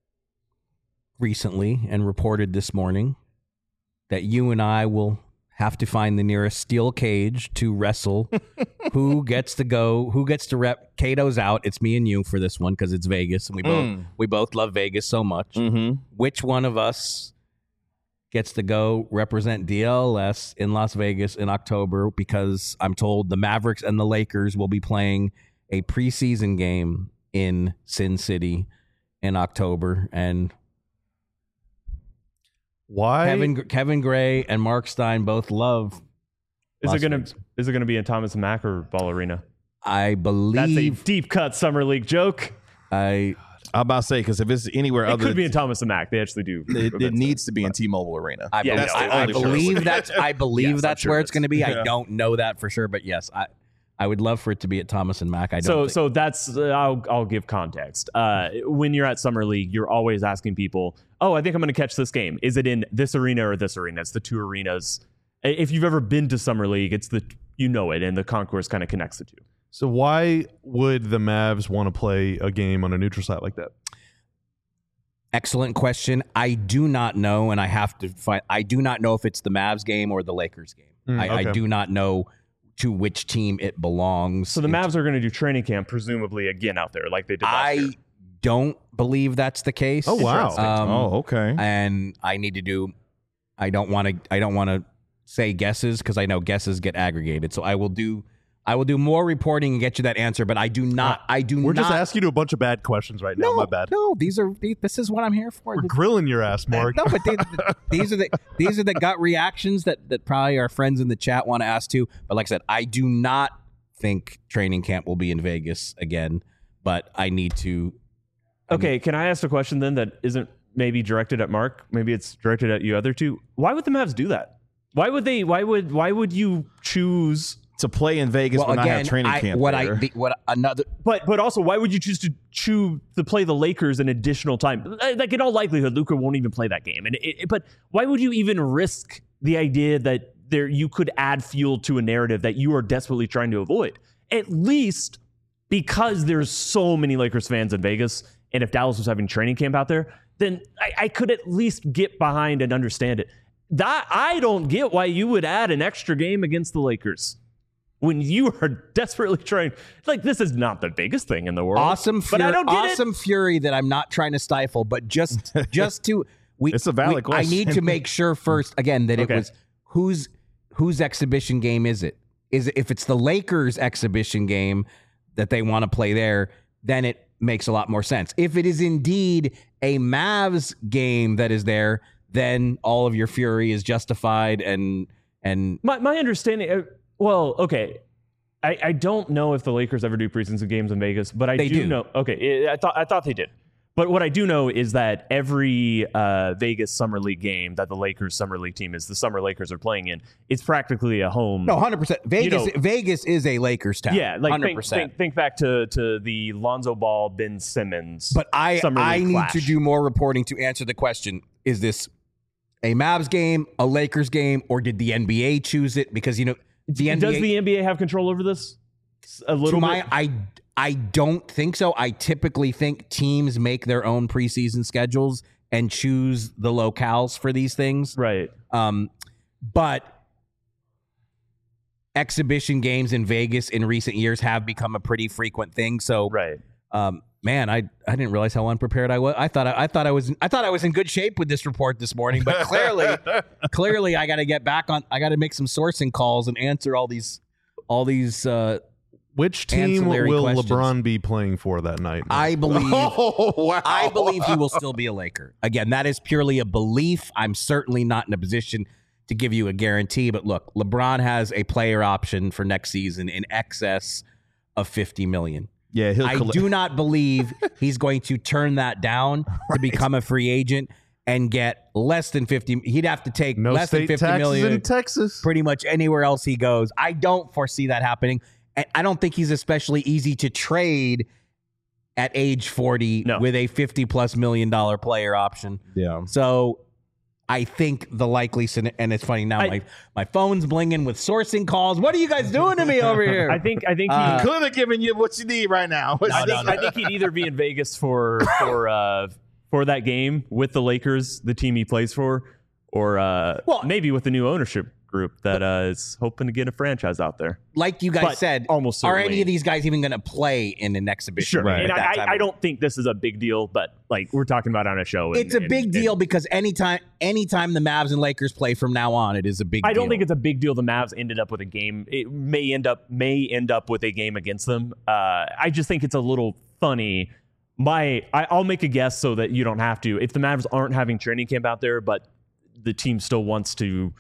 recently and reported this morning that you and I will have to find the nearest steel cage to wrestle. Who gets to rep? Cato's out. It's me and you for this one because it's Vegas, and we both love Vegas so much. Mm-hmm. Which one of us gets to go represent DLS in Las Vegas in October because I'm told the Mavericks and the Lakers will be playing a preseason game in Sin City in October. And Why? Kevin Gray and Mark Stein both love Is Las it Vegas. gonna be in Thomas and Mack or Ball Arena? I That's a believe deep cut summer league joke. I I'm about to say, because if it's anywhere It other could be in Thomas and Mack. They actually do. it events needs to be in T-Mobile Arena. I, Yeah, believe, that's the I only believe place. that's I believe Yes, I'm that's sure where it it's going to be. is. I don't know that for sure, but yes, I would love for it to be at Thomas and Mack. I don't. So that's I'll give context. When you're at Summer League, you're always asking people, "Oh, I think I'm going to catch this game. Is it in this arena or this arena?" It's the two arenas. If you've ever been to Summer League, it's it, and the concourse kind of connects the two. So why would the Mavs want to play a game on a neutral site like that? Excellent question. I do not know, and I have to find. I do not know if it's the Mavs game or the Lakers game. I okay. do not know to which team it belongs. So the Mavs are going to do training camp, presumably again out there, like they did last year. I don't believe that's the case. Oh, wow. Oh, okay. And I need to do. I don't want to say guesses because I know guesses get aggregated. So I will do more reporting and get you that answer. But I do not. We're just asking you a bunch of bad questions right now. No, My bad. No, this is what I'm here for. We're grilling your ass, Mark. No, but these are the gut reactions that probably our friends in the chat want to ask too. But like I said, I do not think training camp will be in Vegas again. But I need to. Okay, can I ask a question then that isn't maybe directed at Mark? Maybe it's directed at you other two. Why would the Mavs do that? Why would you choose To play in Vegas when I have training camp there. But also, why would you choose to play the Lakers an additional time? Like in all likelihood, Luka won't even play that game. But why would you even risk the idea that you could add fuel to a narrative that you are desperately trying to avoid? At least because there's so many Lakers fans in Vegas, and if Dallas was having training camp out there, then I could at least get behind and understand it. That I don't get why you would add an extra game against the Lakers when you are desperately trying. Like, this is not the biggest thing in the world. But I don't get it. Fury that I'm not trying to stifle, but just to It's a valid I question. need to make sure first again that Okay. it was whose exhibition game is it? Is it if it's the Lakers exhibition game that they want to play there, then it makes a lot more sense. If it is indeed a Mavs game that is there, then all of your fury is justified and My understanding. Well, okay. I don't know if the Lakers ever do preseason games in Vegas, but They do. know. Okay, I thought they did. But what I do know is that every Vegas Summer League game that the Lakers Summer League team is the Summer Lakers are playing in, it's practically a home. no 100%. Vegas is a Lakers town. Yeah, like 100%. think back to the Lonzo Ball, Ben Simmons. But Summer I League need clash. to do more reporting to answer the question: is this a Mavs game, a Lakers game, or did the NBA choose it? Because the NBA Does the NBA have control over this? A little bit. I don't think so. I typically think teams make their own preseason schedules and choose the locales for these things. Right. But exhibition games in Vegas in recent years have become a pretty frequent thing. So, Right. man, I didn't realize how unprepared I was. I thought I was in good shape with this report this morning, but clearly I got to get back on. I got to make some sourcing calls and answer all these. Which team Ancillary will questions. LeBron be playing for that night? I believe. Oh, wow. I believe he will still be a Laker. Again, that is purely a belief. I'm certainly not in a position to give you a guarantee. But look, LeBron has a player option for next season in excess of $50 million. Yeah, he'll I collect. do not believe he's going to turn that down to become a free agent and get less than 50. He'd have to take No less than state 50 taxes million in Texas. pretty much anywhere else he goes. I don't foresee that happening. And I don't think he's especially easy to trade at age 40 No. with a $50+ million player option. Yeah. So I think the likely scenario, and it's funny now, my phone's blinging with sourcing calls. What are you guys doing to me over here? I think he Could have given you what you need right now. I think he'd either be in Vegas for that game with the Lakers, the team he plays for, or maybe with the new ownership group that is hoping to get a franchise out there. Like you guys But said, almost are any certainly- of these guys even going to play in an exhibition? Sure, game and at that time? I don't think this is a big deal, but like we're talking about on a show. It's a big deal because anytime the Mavs and Lakers play from now on, it is a big deal. I don't think it's a big deal. The Mavs ended up with a game. It may end up with a game against them. I just think it's a little funny. I'll make a guess so that you don't have to. If the Mavs aren't having training camp out there, but the team still wants to,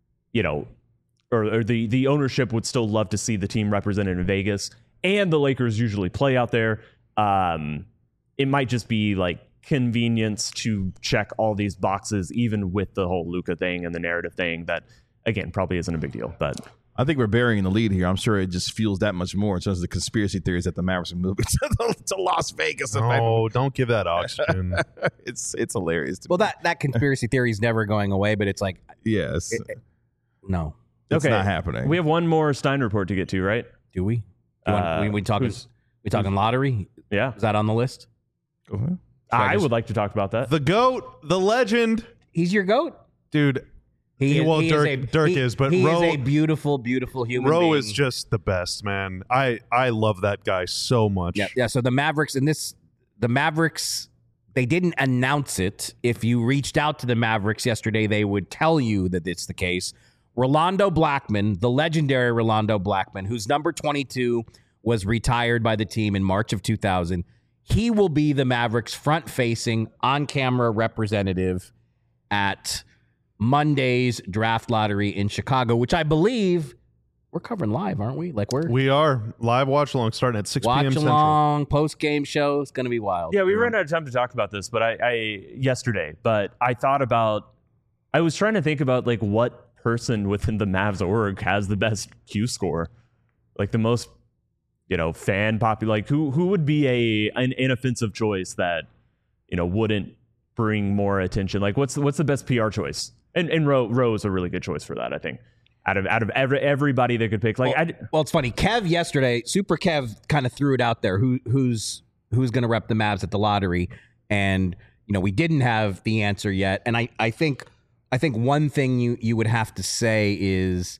or the ownership would still love to see the team represented in Vegas, and the Lakers usually play out there. It might just be like convenience to check all these boxes, even with the whole Luka thing and the narrative thing. That again probably isn't a big deal, but I think we're burying the lead here. I'm sure it just fuels that much more in terms of the conspiracy theories that the Mavericks are moving to Las Vegas. Oh, don't give that oxygen. It's hilarious. To Well, me. that conspiracy theory is never going away, but it's like, yes, no. it's okay. not happening. We have one more Stein report to get to, right? Do we? We talking lottery? Yeah, Is that on the list? Go ahead. I would like to talk about that. The GOAT, the legend, He's your GOAT. dude. Dirk is, but he Roe is a beautiful, beautiful human Roe being. is just the best, man. I love that guy so much. Yeah. So the Mavericks they didn't announce it. If you reached out to the Mavericks yesterday, they would tell you that it's the case. Rolando Blackman, the legendary Rolando Blackman, whose number 22 was retired by the team in March of 2000, he will be the Mavericks' front-facing, on-camera representative at Monday's draft lottery in Chicago, which I believe we're covering live, aren't we? Like We are live watch along starting at 6 p.m. watch Central. along, post-game show. It's going to be wild. Yeah, we ran out of time to talk about this, but yesterday. But I was trying to think about like what person within the Mavs org has the best Q score, like the most, fan popular. Like who would be an inoffensive choice that wouldn't bring more attention? Like what's the best PR choice? And Roe is a really good choice for that, I think. Out of everybody they could pick, like well, it's funny. Kev yesterday, Super Kev, kind of threw it out there. Who's going to rep the Mavs at the lottery? And we didn't have the answer yet. And I think one thing you would have to say is,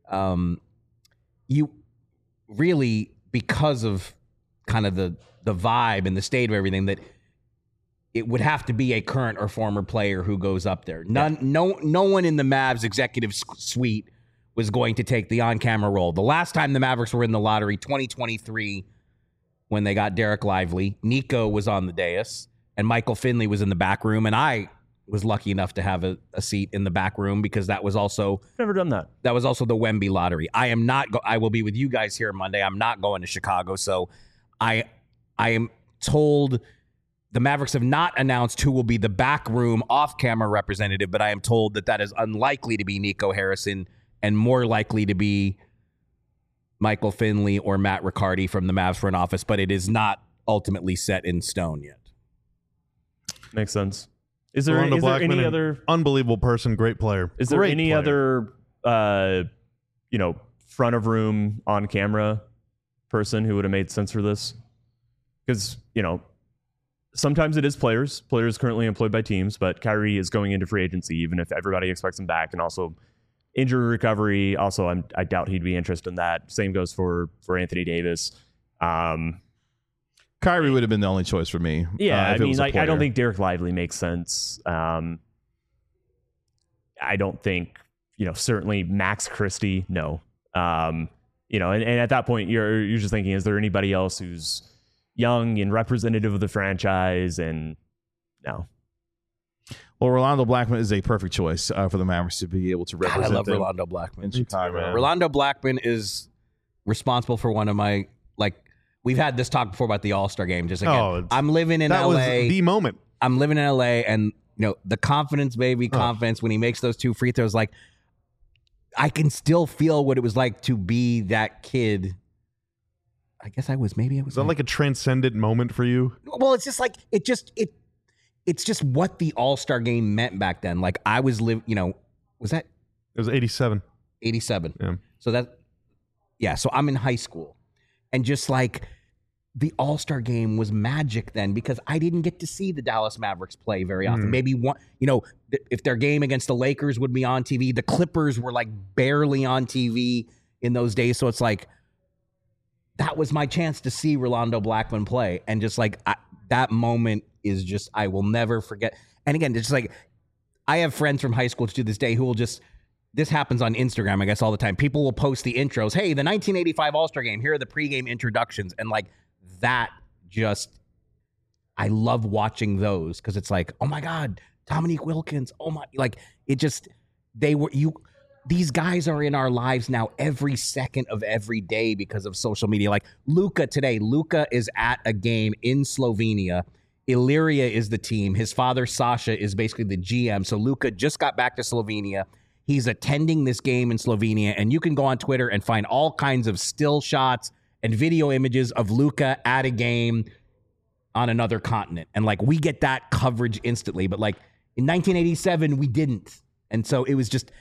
you really, because of kind of the vibe and the state of everything, that it would have to be a current or former player who goes up there. No one in the Mavs executive suite was going to take the on-camera role. The last time the Mavericks were in the lottery, 2023, when they got Derek Lively, Nico was on the dais, and Michael Finley was in the back room, and I was lucky enough to have a seat in the back room because that was also never done that. That was also the Wemby lottery. I am not. I will be with you guys here Monday. I'm not going to Chicago, so I am told. The Mavericks have not announced who will be the backroom off-camera representative, but I am told that is unlikely to be Nico Harrison and more likely to be Michael Finley or Matt Riccardi from the Mavs front office, but it is not ultimately set in stone yet. Makes sense. Is there Rolando Blackman, any an other unbelievable person, great player. Is there Great any player. other front of room on camera person who would have made sense for this? Because sometimes it is players currently employed by teams, but Kyrie is going into free agency, even if everybody expects him back, and also injury recovery. Also, I doubt he'd be interested in that. Same goes for Anthony Davis. Kyrie would have been the only choice for me. Yeah, if it was a I player. don't think Derek Lively makes sense. I don't think, certainly Max Christie, no. And at that point, you're just thinking, is there anybody else who's young and representative of the franchise? And no. Well, Rolando Blackman is a perfect choice for the Mavericks to be able to represent I love them Rolando Blackman. in Chicago. man. Rolando Blackman is responsible for one of my, we've had this talk before about the All-Star game. Just again, I'm living in That LA. was the moment. I'm living in LA, and the confidence, baby, confidence when he makes those 2 free throws, like I can still feel what it was like to be that kid. I guess I was Is that like a transcendent moment for you? well, it's just like it's just what the All-Star game meant back then. Like I was was that It was 87. 87? Yeah. So so I'm in high school, and just like the All-Star game was magic then, because I didn't get to see the Dallas Mavericks play very often. Maybe one, if their game against the Lakers would be on TV, the Clippers were like barely on TV in those days. So it's like, that was my chance to see Rolando Blackman play. And just like that moment is just, I will never forget. And again, it's just like, I have friends from high school to this day who will just, this happens on Instagram, I guess, all the time. People will post the intros. Hey, the 1985 All-Star game. Here are the pregame introductions. And like that just, I love watching those because it's like, oh my God, Dominique Wilkins. Oh my, like it just, these guys are in our lives now every second of every day because of social media. Like Luka today, Luka is at a game in Slovenia. Illyria is the team. His father, Sasha, is basically the GM. So Luka just got back to Slovenia. He's attending this game in Slovenia, and you can go on Twitter and find all kinds of still shots and video images of Luka at a game on another continent. And like we get that coverage instantly, but like in 1987 we didn't. And so it was just,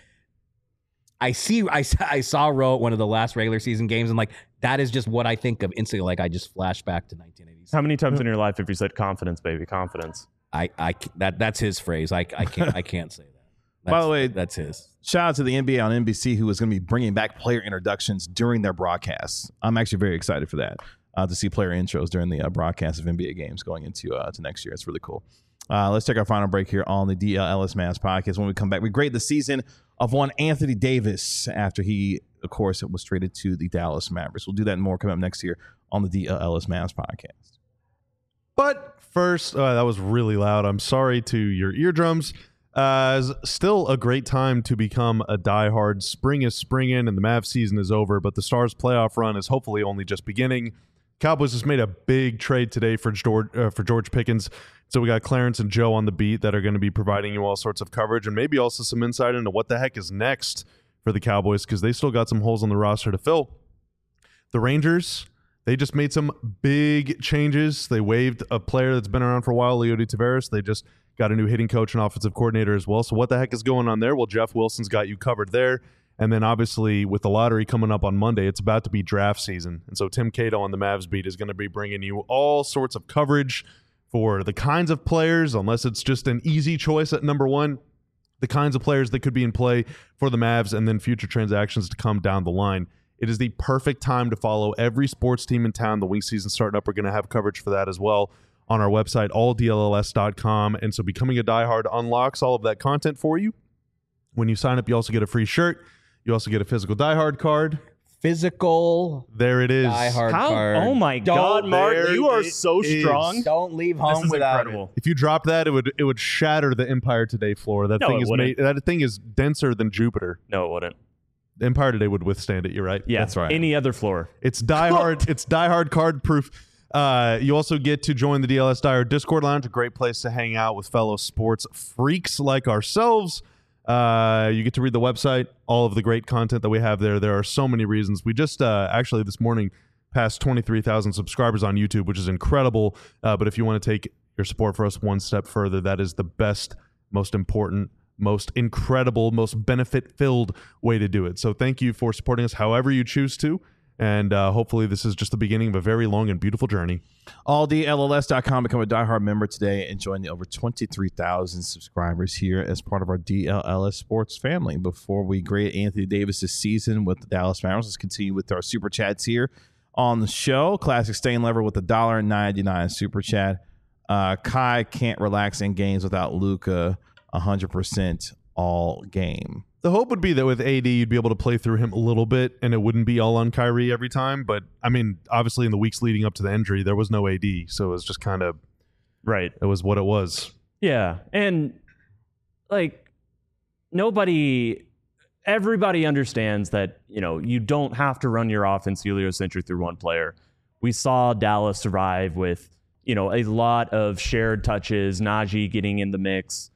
I saw Roe at one of the last regular season games, and like that is just what I think of instantly. Like I just flash back to 1987. How many times in your life have you said confidence, baby, confidence? That's his phrase. I can't say that. By the way, that's his. Shout out to the NBA on NBC, who is going to be bringing back player introductions during their broadcasts. I'm actually very excited for that, to see player intros during the broadcast of NBA games going into to next year. It's really cool. Let's take our final break here on the DLLS Mavs podcast. When we come back, we grade the season of one Anthony Davis after he, of course, was traded to the Dallas Mavericks. We'll do that and more coming up next year on the DLLS Mavs podcast. But first, that was really loud. I'm sorry to your eardrums. Still a great time to become a diehard. Spring is springing and the Mavs season is over, but the Stars playoff run is hopefully only just beginning. Cowboys just made a big trade today for George Pickens. So we got Clarence and Joe on the beat that are going to be providing you all sorts of coverage and maybe also some insight into what the heck is next for the Cowboys, because they still got some holes on the roster to fill. The Rangers, they just made some big changes. They waived a player that's been around for a while, Leody Taveras. They just got a new hitting coach and offensive coordinator as well. So what the heck is going on there? Well, Jeff Wilson's got you covered there. And then obviously with the lottery coming up on Monday, it's about to be draft season. And so Tim Cato on the Mavs beat is going to be bringing you all sorts of coverage for the kinds of players, unless it's just an easy choice at number one, the kinds of players that could be in play for the Mavs and then future transactions to come down the line. It is the perfect time to follow every sports team in town. The wing season starting up. We're going to have coverage for that as well on our website, alldlls.com. And so becoming a diehard unlocks all of that content for you. When you sign up, you also get a free shirt. You also get a physical diehard card. Physical. There it is. Diehard card. Oh my God, Mark, you are so strong. Don't leave This home is without incredible. If you drop that, it would shatter the Empire Today floor. That No, thing it is wouldn't. that thing is denser than Jupiter. No, it wouldn't. The Empire Today would withstand it. You're right. Yeah, That's right. Any other floor. It's diehard. It's diehard card proof. You also get to join the DLS Diehard Discord Lounge, a great place to hang out with fellow sports freaks like ourselves. You get to read the website, all of the great content that we have there. There are so many reasons. We just actually this morning passed 23,000 subscribers on YouTube, which is incredible. But if you want to take your support for us one step further, that is the best, most important, most incredible, most benefit-filled way to do it. So thank you for supporting us however you choose to. And hopefully this is just the beginning of a very long and beautiful journey. AllDLLS.com. Become a diehard member today and join the over 23,000 subscribers here as part of our DLLS sports family. Before we grade Anthony Davis' season with the Dallas Mavericks, let's continue with our super chats here on the show. Classic Stain Lever with the $1.99 super chat. Kai can't relax in games without Luka 100% all game. The hope would be that with AD, you'd be able to play through him a little bit, and it wouldn't be all on Kyrie every time. But, I mean, obviously in the weeks leading up to the injury, there was no AD, so it was just kind of... Right. It was what it was. Yeah. And, like, everybody understands that, you don't have to run your offense heliocentric through one player. We saw Dallas survive with, a lot of shared touches, Najee getting in the mix.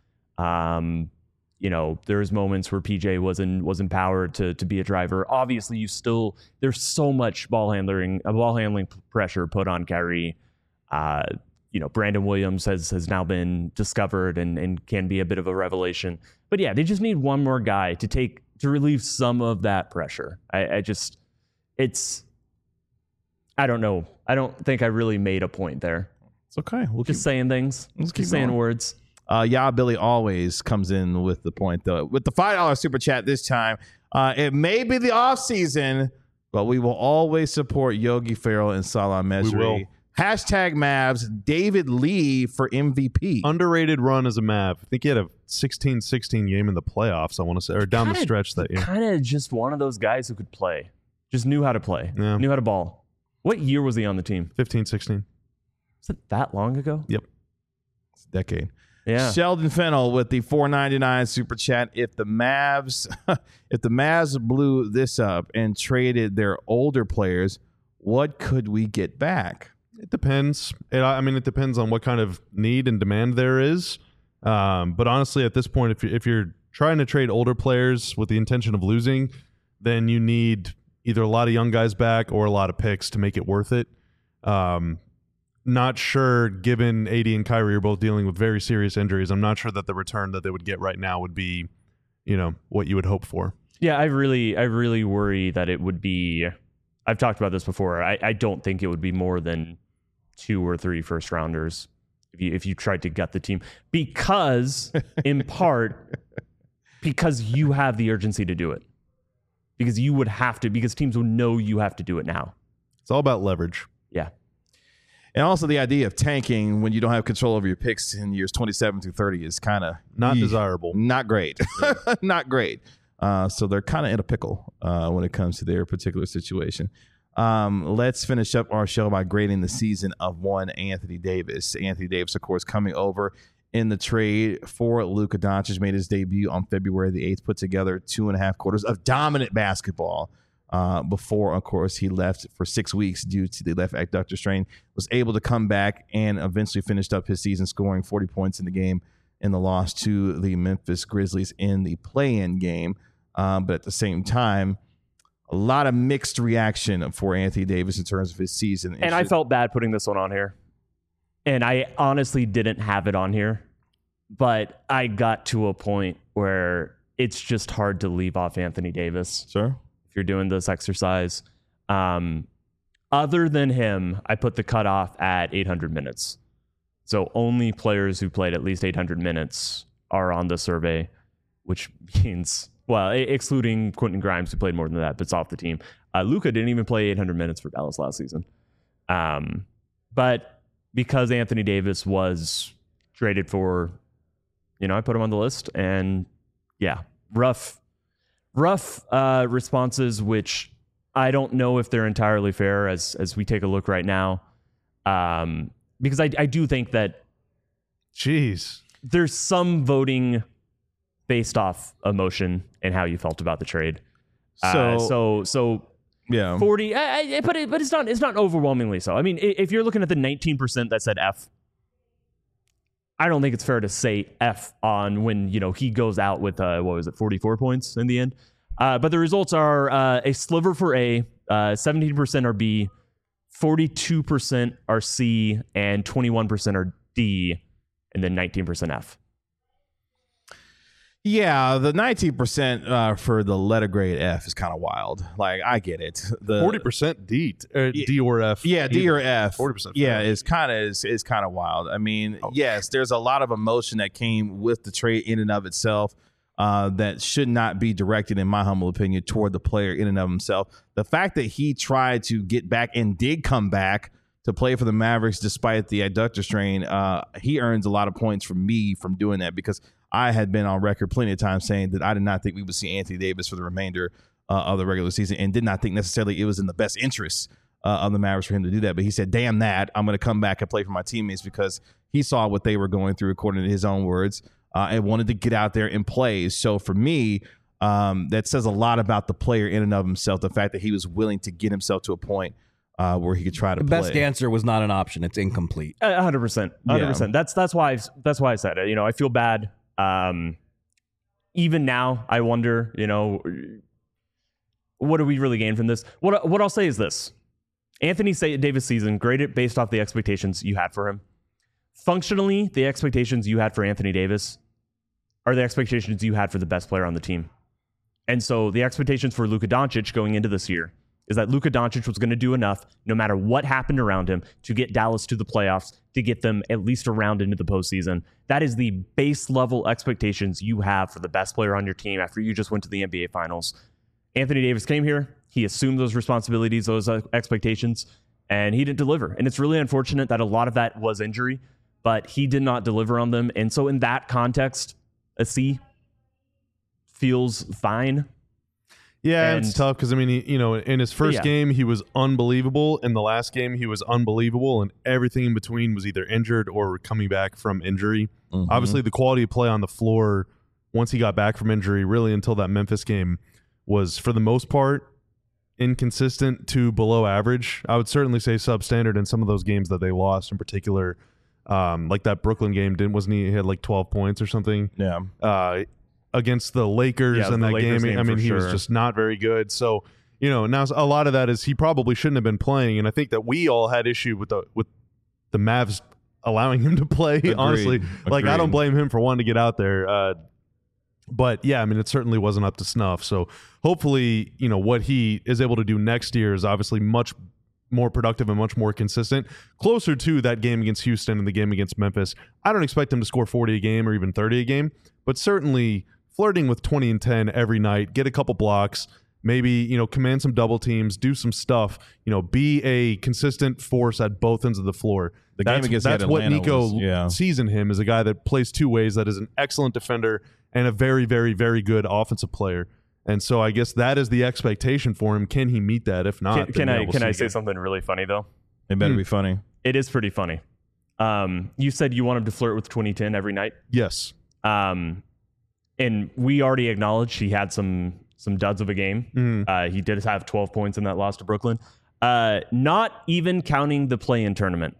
There's moments where PJ was empowered to be a driver. Obviously, there's so much ball handling pressure put on Kyrie. Brandon Williams has now been discovered and can be a bit of a revelation. But yeah, they just need one more guy to relieve some of that pressure. I don't know. I don't think I really made a point there. It's okay. We'll Just saying things. Let's keep Just saying going. words. Yeah, Billy always comes in with the point, though. With the $5 super chat this time, it may be the off season, but we will always support Yogi Ferrell and Salah Mejri. We will. Hashtag Mavs, David Lee for MVP. Underrated run as a Mav. I think he had a 16-16 game in the playoffs, I want to say, or down the stretch that year. Kind of just one of those guys who could play. Just knew how to play. Yeah. Knew how to ball. What year was he on the team? 15-16. Was it that long ago? Yep. It's a decade. Yeah. Sheldon Fennell with the $4.99 super chat. If the Mavs blew this up and traded their older players, what could we get back? It depends. It depends on what kind of need and demand there is. But honestly, at this point, if you're trying to trade older players with the intention of losing, then you need either a lot of young guys back or a lot of picks to make it worth it. Not sure, given AD and Kyrie are both dealing with very serious injuries, I'm not sure that the return that they would get right now would be, what you would hope for. Yeah, I really worry that it would be. I've talked about this before. I don't think it would be more than 2 or 3 first rounders if you tried to gut the team, because in part because you have the urgency to do it, because you would have to, because teams will know you have to do it now. It's all about leverage. Yeah. And also the idea of tanking when you don't have control over your picks in years 27 through 30 is kind of Not desirable. Not great. Not great. So they're kind of in a pickle when it comes to their particular situation. Let's finish up our show by grading the season of one Anthony Davis. Anthony Davis, of course, coming over in the trade for Luka Doncic, made his debut on February the 8th, put together 2.5 quarters of dominant basketball. Before, of course, he left for 6 weeks due to the left adductor strain, was able to come back and eventually finished up his season scoring 40 points in the game in the loss to the Memphis Grizzlies in the play-in game. But at the same time, a lot of mixed reaction for Anthony Davis in terms of his season. And I felt bad putting this one on here. And I honestly didn't have it on here. But I got to a point where it's just hard to leave off Anthony Davis. Sure. If you're doing this exercise. Other than him, I put the cutoff at 800 minutes. So only players who played at least 800 minutes are on the survey, which means, well, excluding Quentin Grimes, who played more than that, but it's off the team. Luka didn't even play 800 minutes for Dallas last season. But because Anthony Davis was traded for, I put him on the list. And yeah, rough responses, which I don't know if they're entirely fair as we take a look right now. Because I do think that there's some voting based off emotion and how you felt about the trade. So yeah, 40. But it's not overwhelmingly so. I mean, if you're looking at the 19% that said F, I don't think it's fair to say F on when he goes out with 44 points in the end. But the results are a sliver for A, 17% are B, 42% are C, and 21% are D, and then 19% F. Yeah, the 19% for the letter grade F is kind of wild. Like, I get it. The 40% D or F. Yeah, D or F. 40%. Yeah, is kind of wild. I mean, yes, there's a lot of emotion that came with the trade in and of itself that should not be directed, in my humble opinion, toward the player in and of himself. The fact that he tried to get back and did come back to play for the Mavericks despite the adductor strain, he earns a lot of points from me from doing that, because I had been on record plenty of times saying that I did not think we would see Anthony Davis for the remainder of the regular season, and did not think necessarily it was in the best interest of the Mavericks for him to do that. But he said, damn that, I'm going to come back and play for my teammates, because he saw what they were going through, according to his own words, and wanted to get out there and play. So for me, that says a lot about the player in and of himself, the fact that he was willing to get himself to a point where he could try to play. The best answer was not an option. It's incomplete. 100%. 100%. That's why I said it. I feel bad. Even now, I wonder, what do we really gain from this? What I'll say is this. Anthony Davis season, graded based off the expectations you had for him. Functionally, the expectations you had for Anthony Davis are the expectations you had for the best player on the team. And so the expectations for Luka Doncic going into this year is that Luka Doncic was going to do enough, no matter what happened around him, to get Dallas to the playoffs, to get them at least a round into the postseason. That is the base level expectations you have for the best player on your team after you just went to the NBA Finals. Anthony Davis came here. He assumed those responsibilities, those expectations, and he didn't deliver. And it's really unfortunate that a lot of that was injury, but he did not deliver on them. And so in that context, a C feels fine. Yeah, And- it's tough because, I mean, in his first game, he was unbelievable. In the last game, he was unbelievable. And everything in between was either injured or coming back from injury. Obviously, the quality of play on the floor once he got back from injury, really until that Memphis game, was for the most part inconsistent to below average. I would certainly say substandard in some of those games that they lost, in particular. Like that Brooklyn game, wasn't he had like 12 points or something? Yeah. Against the Lakers Yeah, in the that Lakers game. game I mean, for he was sure. just not very good. So, now a lot of that is he probably shouldn't have been playing. And I think that we all had issue with the Mavs allowing him to play, Agreed. honestly. Like, I don't Agreed. blame him for wanting to get out there. But yeah, I mean, it certainly wasn't up to snuff. So hopefully, what he is able to do next year is obviously much more productive and much more consistent, closer to that game against Houston and the game against Memphis. I don't expect him to score 40 a game or even 30 a game, but certainly flirting with 20 and 10 every night, get a couple blocks, maybe, command some double teams, do some stuff, be a consistent force at both ends of the floor. The game against that's what Atlanta Nico was- sees in him, is a guy that plays two ways, that is an excellent defender and a very, very, very good offensive player. And so I guess that is the expectation for him. Can he meet that? If not, Can then, I we'll can see I say again. something really funny though? It better be funny. It is pretty funny. You said you want him to flirt with 2010 every night. Yes. And we already acknowledged he had some duds of a game. Mm-hmm. He did have 12 points in that loss to Brooklyn. Not even counting the play-in tournament.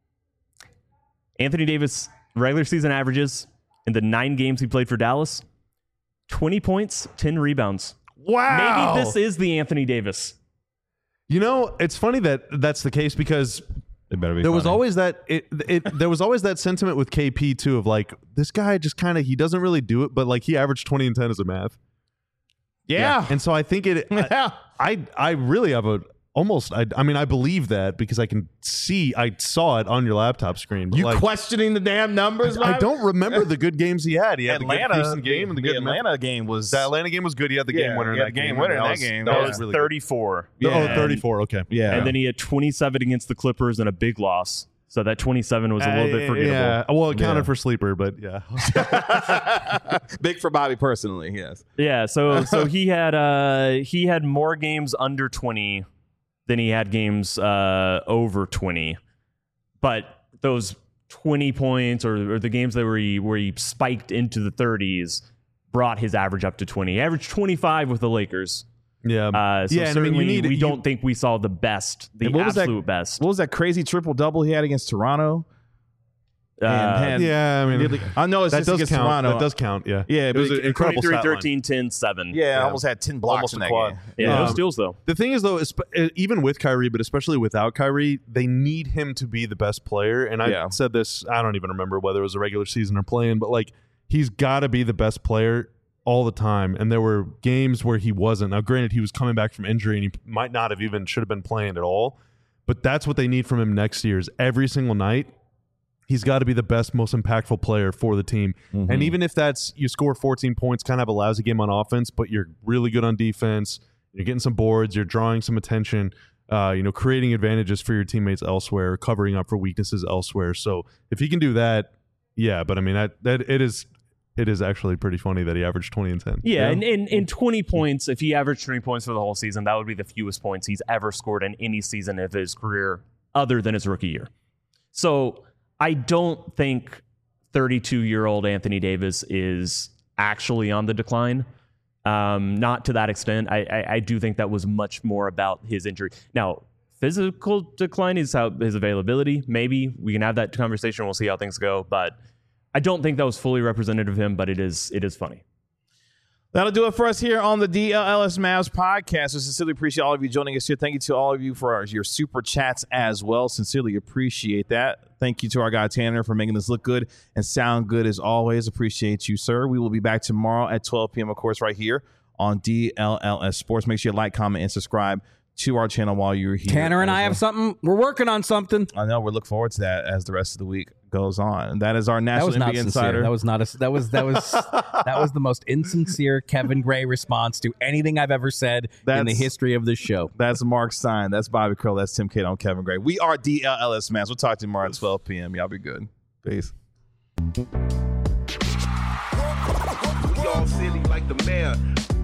Anthony Davis regular season averages in the 9 games he played for Dallas, 20 points, 10 rebounds. Wow. Maybe this is the Anthony Davis. It's funny that that's the case, because It better be there was funny. always that there was always that sentiment with KP too, of like, this guy just kind of, he doesn't really do it, but like he averaged 20 and 10 as a Mav. Yeah. And so I think Yeah. I really have I believe that because I saw it on your laptop screen. But You like, questioning the damn numbers? I Bobby? don't remember the good games he had. He had the Atlanta good Houston game and the good Atlanta game was The Atlanta game was good. He had the Yeah, game winner in he had that the game game. winner in that was- game. That Yeah. That was was really good. 34. Yeah. Oh, 34. Okay. yeah. And then he had 27 against the Clippers and a big loss. So that 27 was a little bit forgettable. Yeah. Well, it counted Yeah. for sleeper, but yeah. big for Bobby personally. Yes. Yeah, so he had more games under 20 than he had games over 20. But those 20 points or the games that where he spiked into the 30s brought his average up to 20. He averaged 25 with the Lakers. Yeah. So yeah. And I mean, certainly we you don't think we saw the best, the And what was that- absolute best. What was that crazy triple double he had against Toronto? Yeah. I mean, I know it's that just does against count. Toronto. That does count. Yeah. Yeah, It was but an incredible 23, stat line. 13, 10, 7. Yeah, I almost had 10 blocks Almost in a that quad. game. Yeah, no Um, steals though. The thing is, though, even with Kyrie, but especially without Kyrie, they need him to be the best player. And I Yeah. said this, I don't even remember whether it was a regular season or playing, but like, he's got to be the best player all the time. And there were games where he wasn't. Now, granted, he was coming back from injury and he might not have even should have been playing at all. But that's what they need from him next year, is every single night, he's got to be the best, most impactful player for the team. Mm-hmm. And even if that's you score 14 points, kind of have a lousy game on offense, but you're really good on defense, you're getting some boards, you're drawing some attention, creating advantages for your teammates elsewhere, covering up for weaknesses elsewhere. So if he can do that, yeah. But I mean, it is actually pretty funny that he averaged 20 and 10. Yeah, and in 20 points, if he averaged 20 points for the whole season, that would be the fewest points he's ever scored in any season of his career other than his rookie year. So I don't think 32-year-old Anthony Davis is actually on the decline. Not to that extent. I do think that was much more about his injury. Now, physical decline is how his availability. Maybe we can have that conversation. We'll see how things go. But I don't think that was fully representative of him, but it is funny. That'll do it for us here on the DLLS Mavs podcast. I sincerely appreciate all of you joining us here. Thank you to all of you for your super chats as well. Sincerely appreciate that. Thank you to our guy Tanner for making this look good and sound good as always. Appreciate you, sir. We will be back tomorrow at 12 p.m., of course, right here on DLLS Sports. Make sure you like, comment, and subscribe to our channel while you're here. Tanner and I have something. We're working on something. I know. We look forward to that as the rest of the week goes on. And that is our That National was not NBA sincere. Insider. That was not a. That was that was the most insincere Kevin Gray response to anything I've ever said in the history of this show. That's Mark Stein. That's Bobby Krill. That's Tim Cato and Kevin Gray. We are DLLS Mavs. We'll talk to you tomorrow at 12 p.m. Y'all be good. Peace. We all silly like the mayor.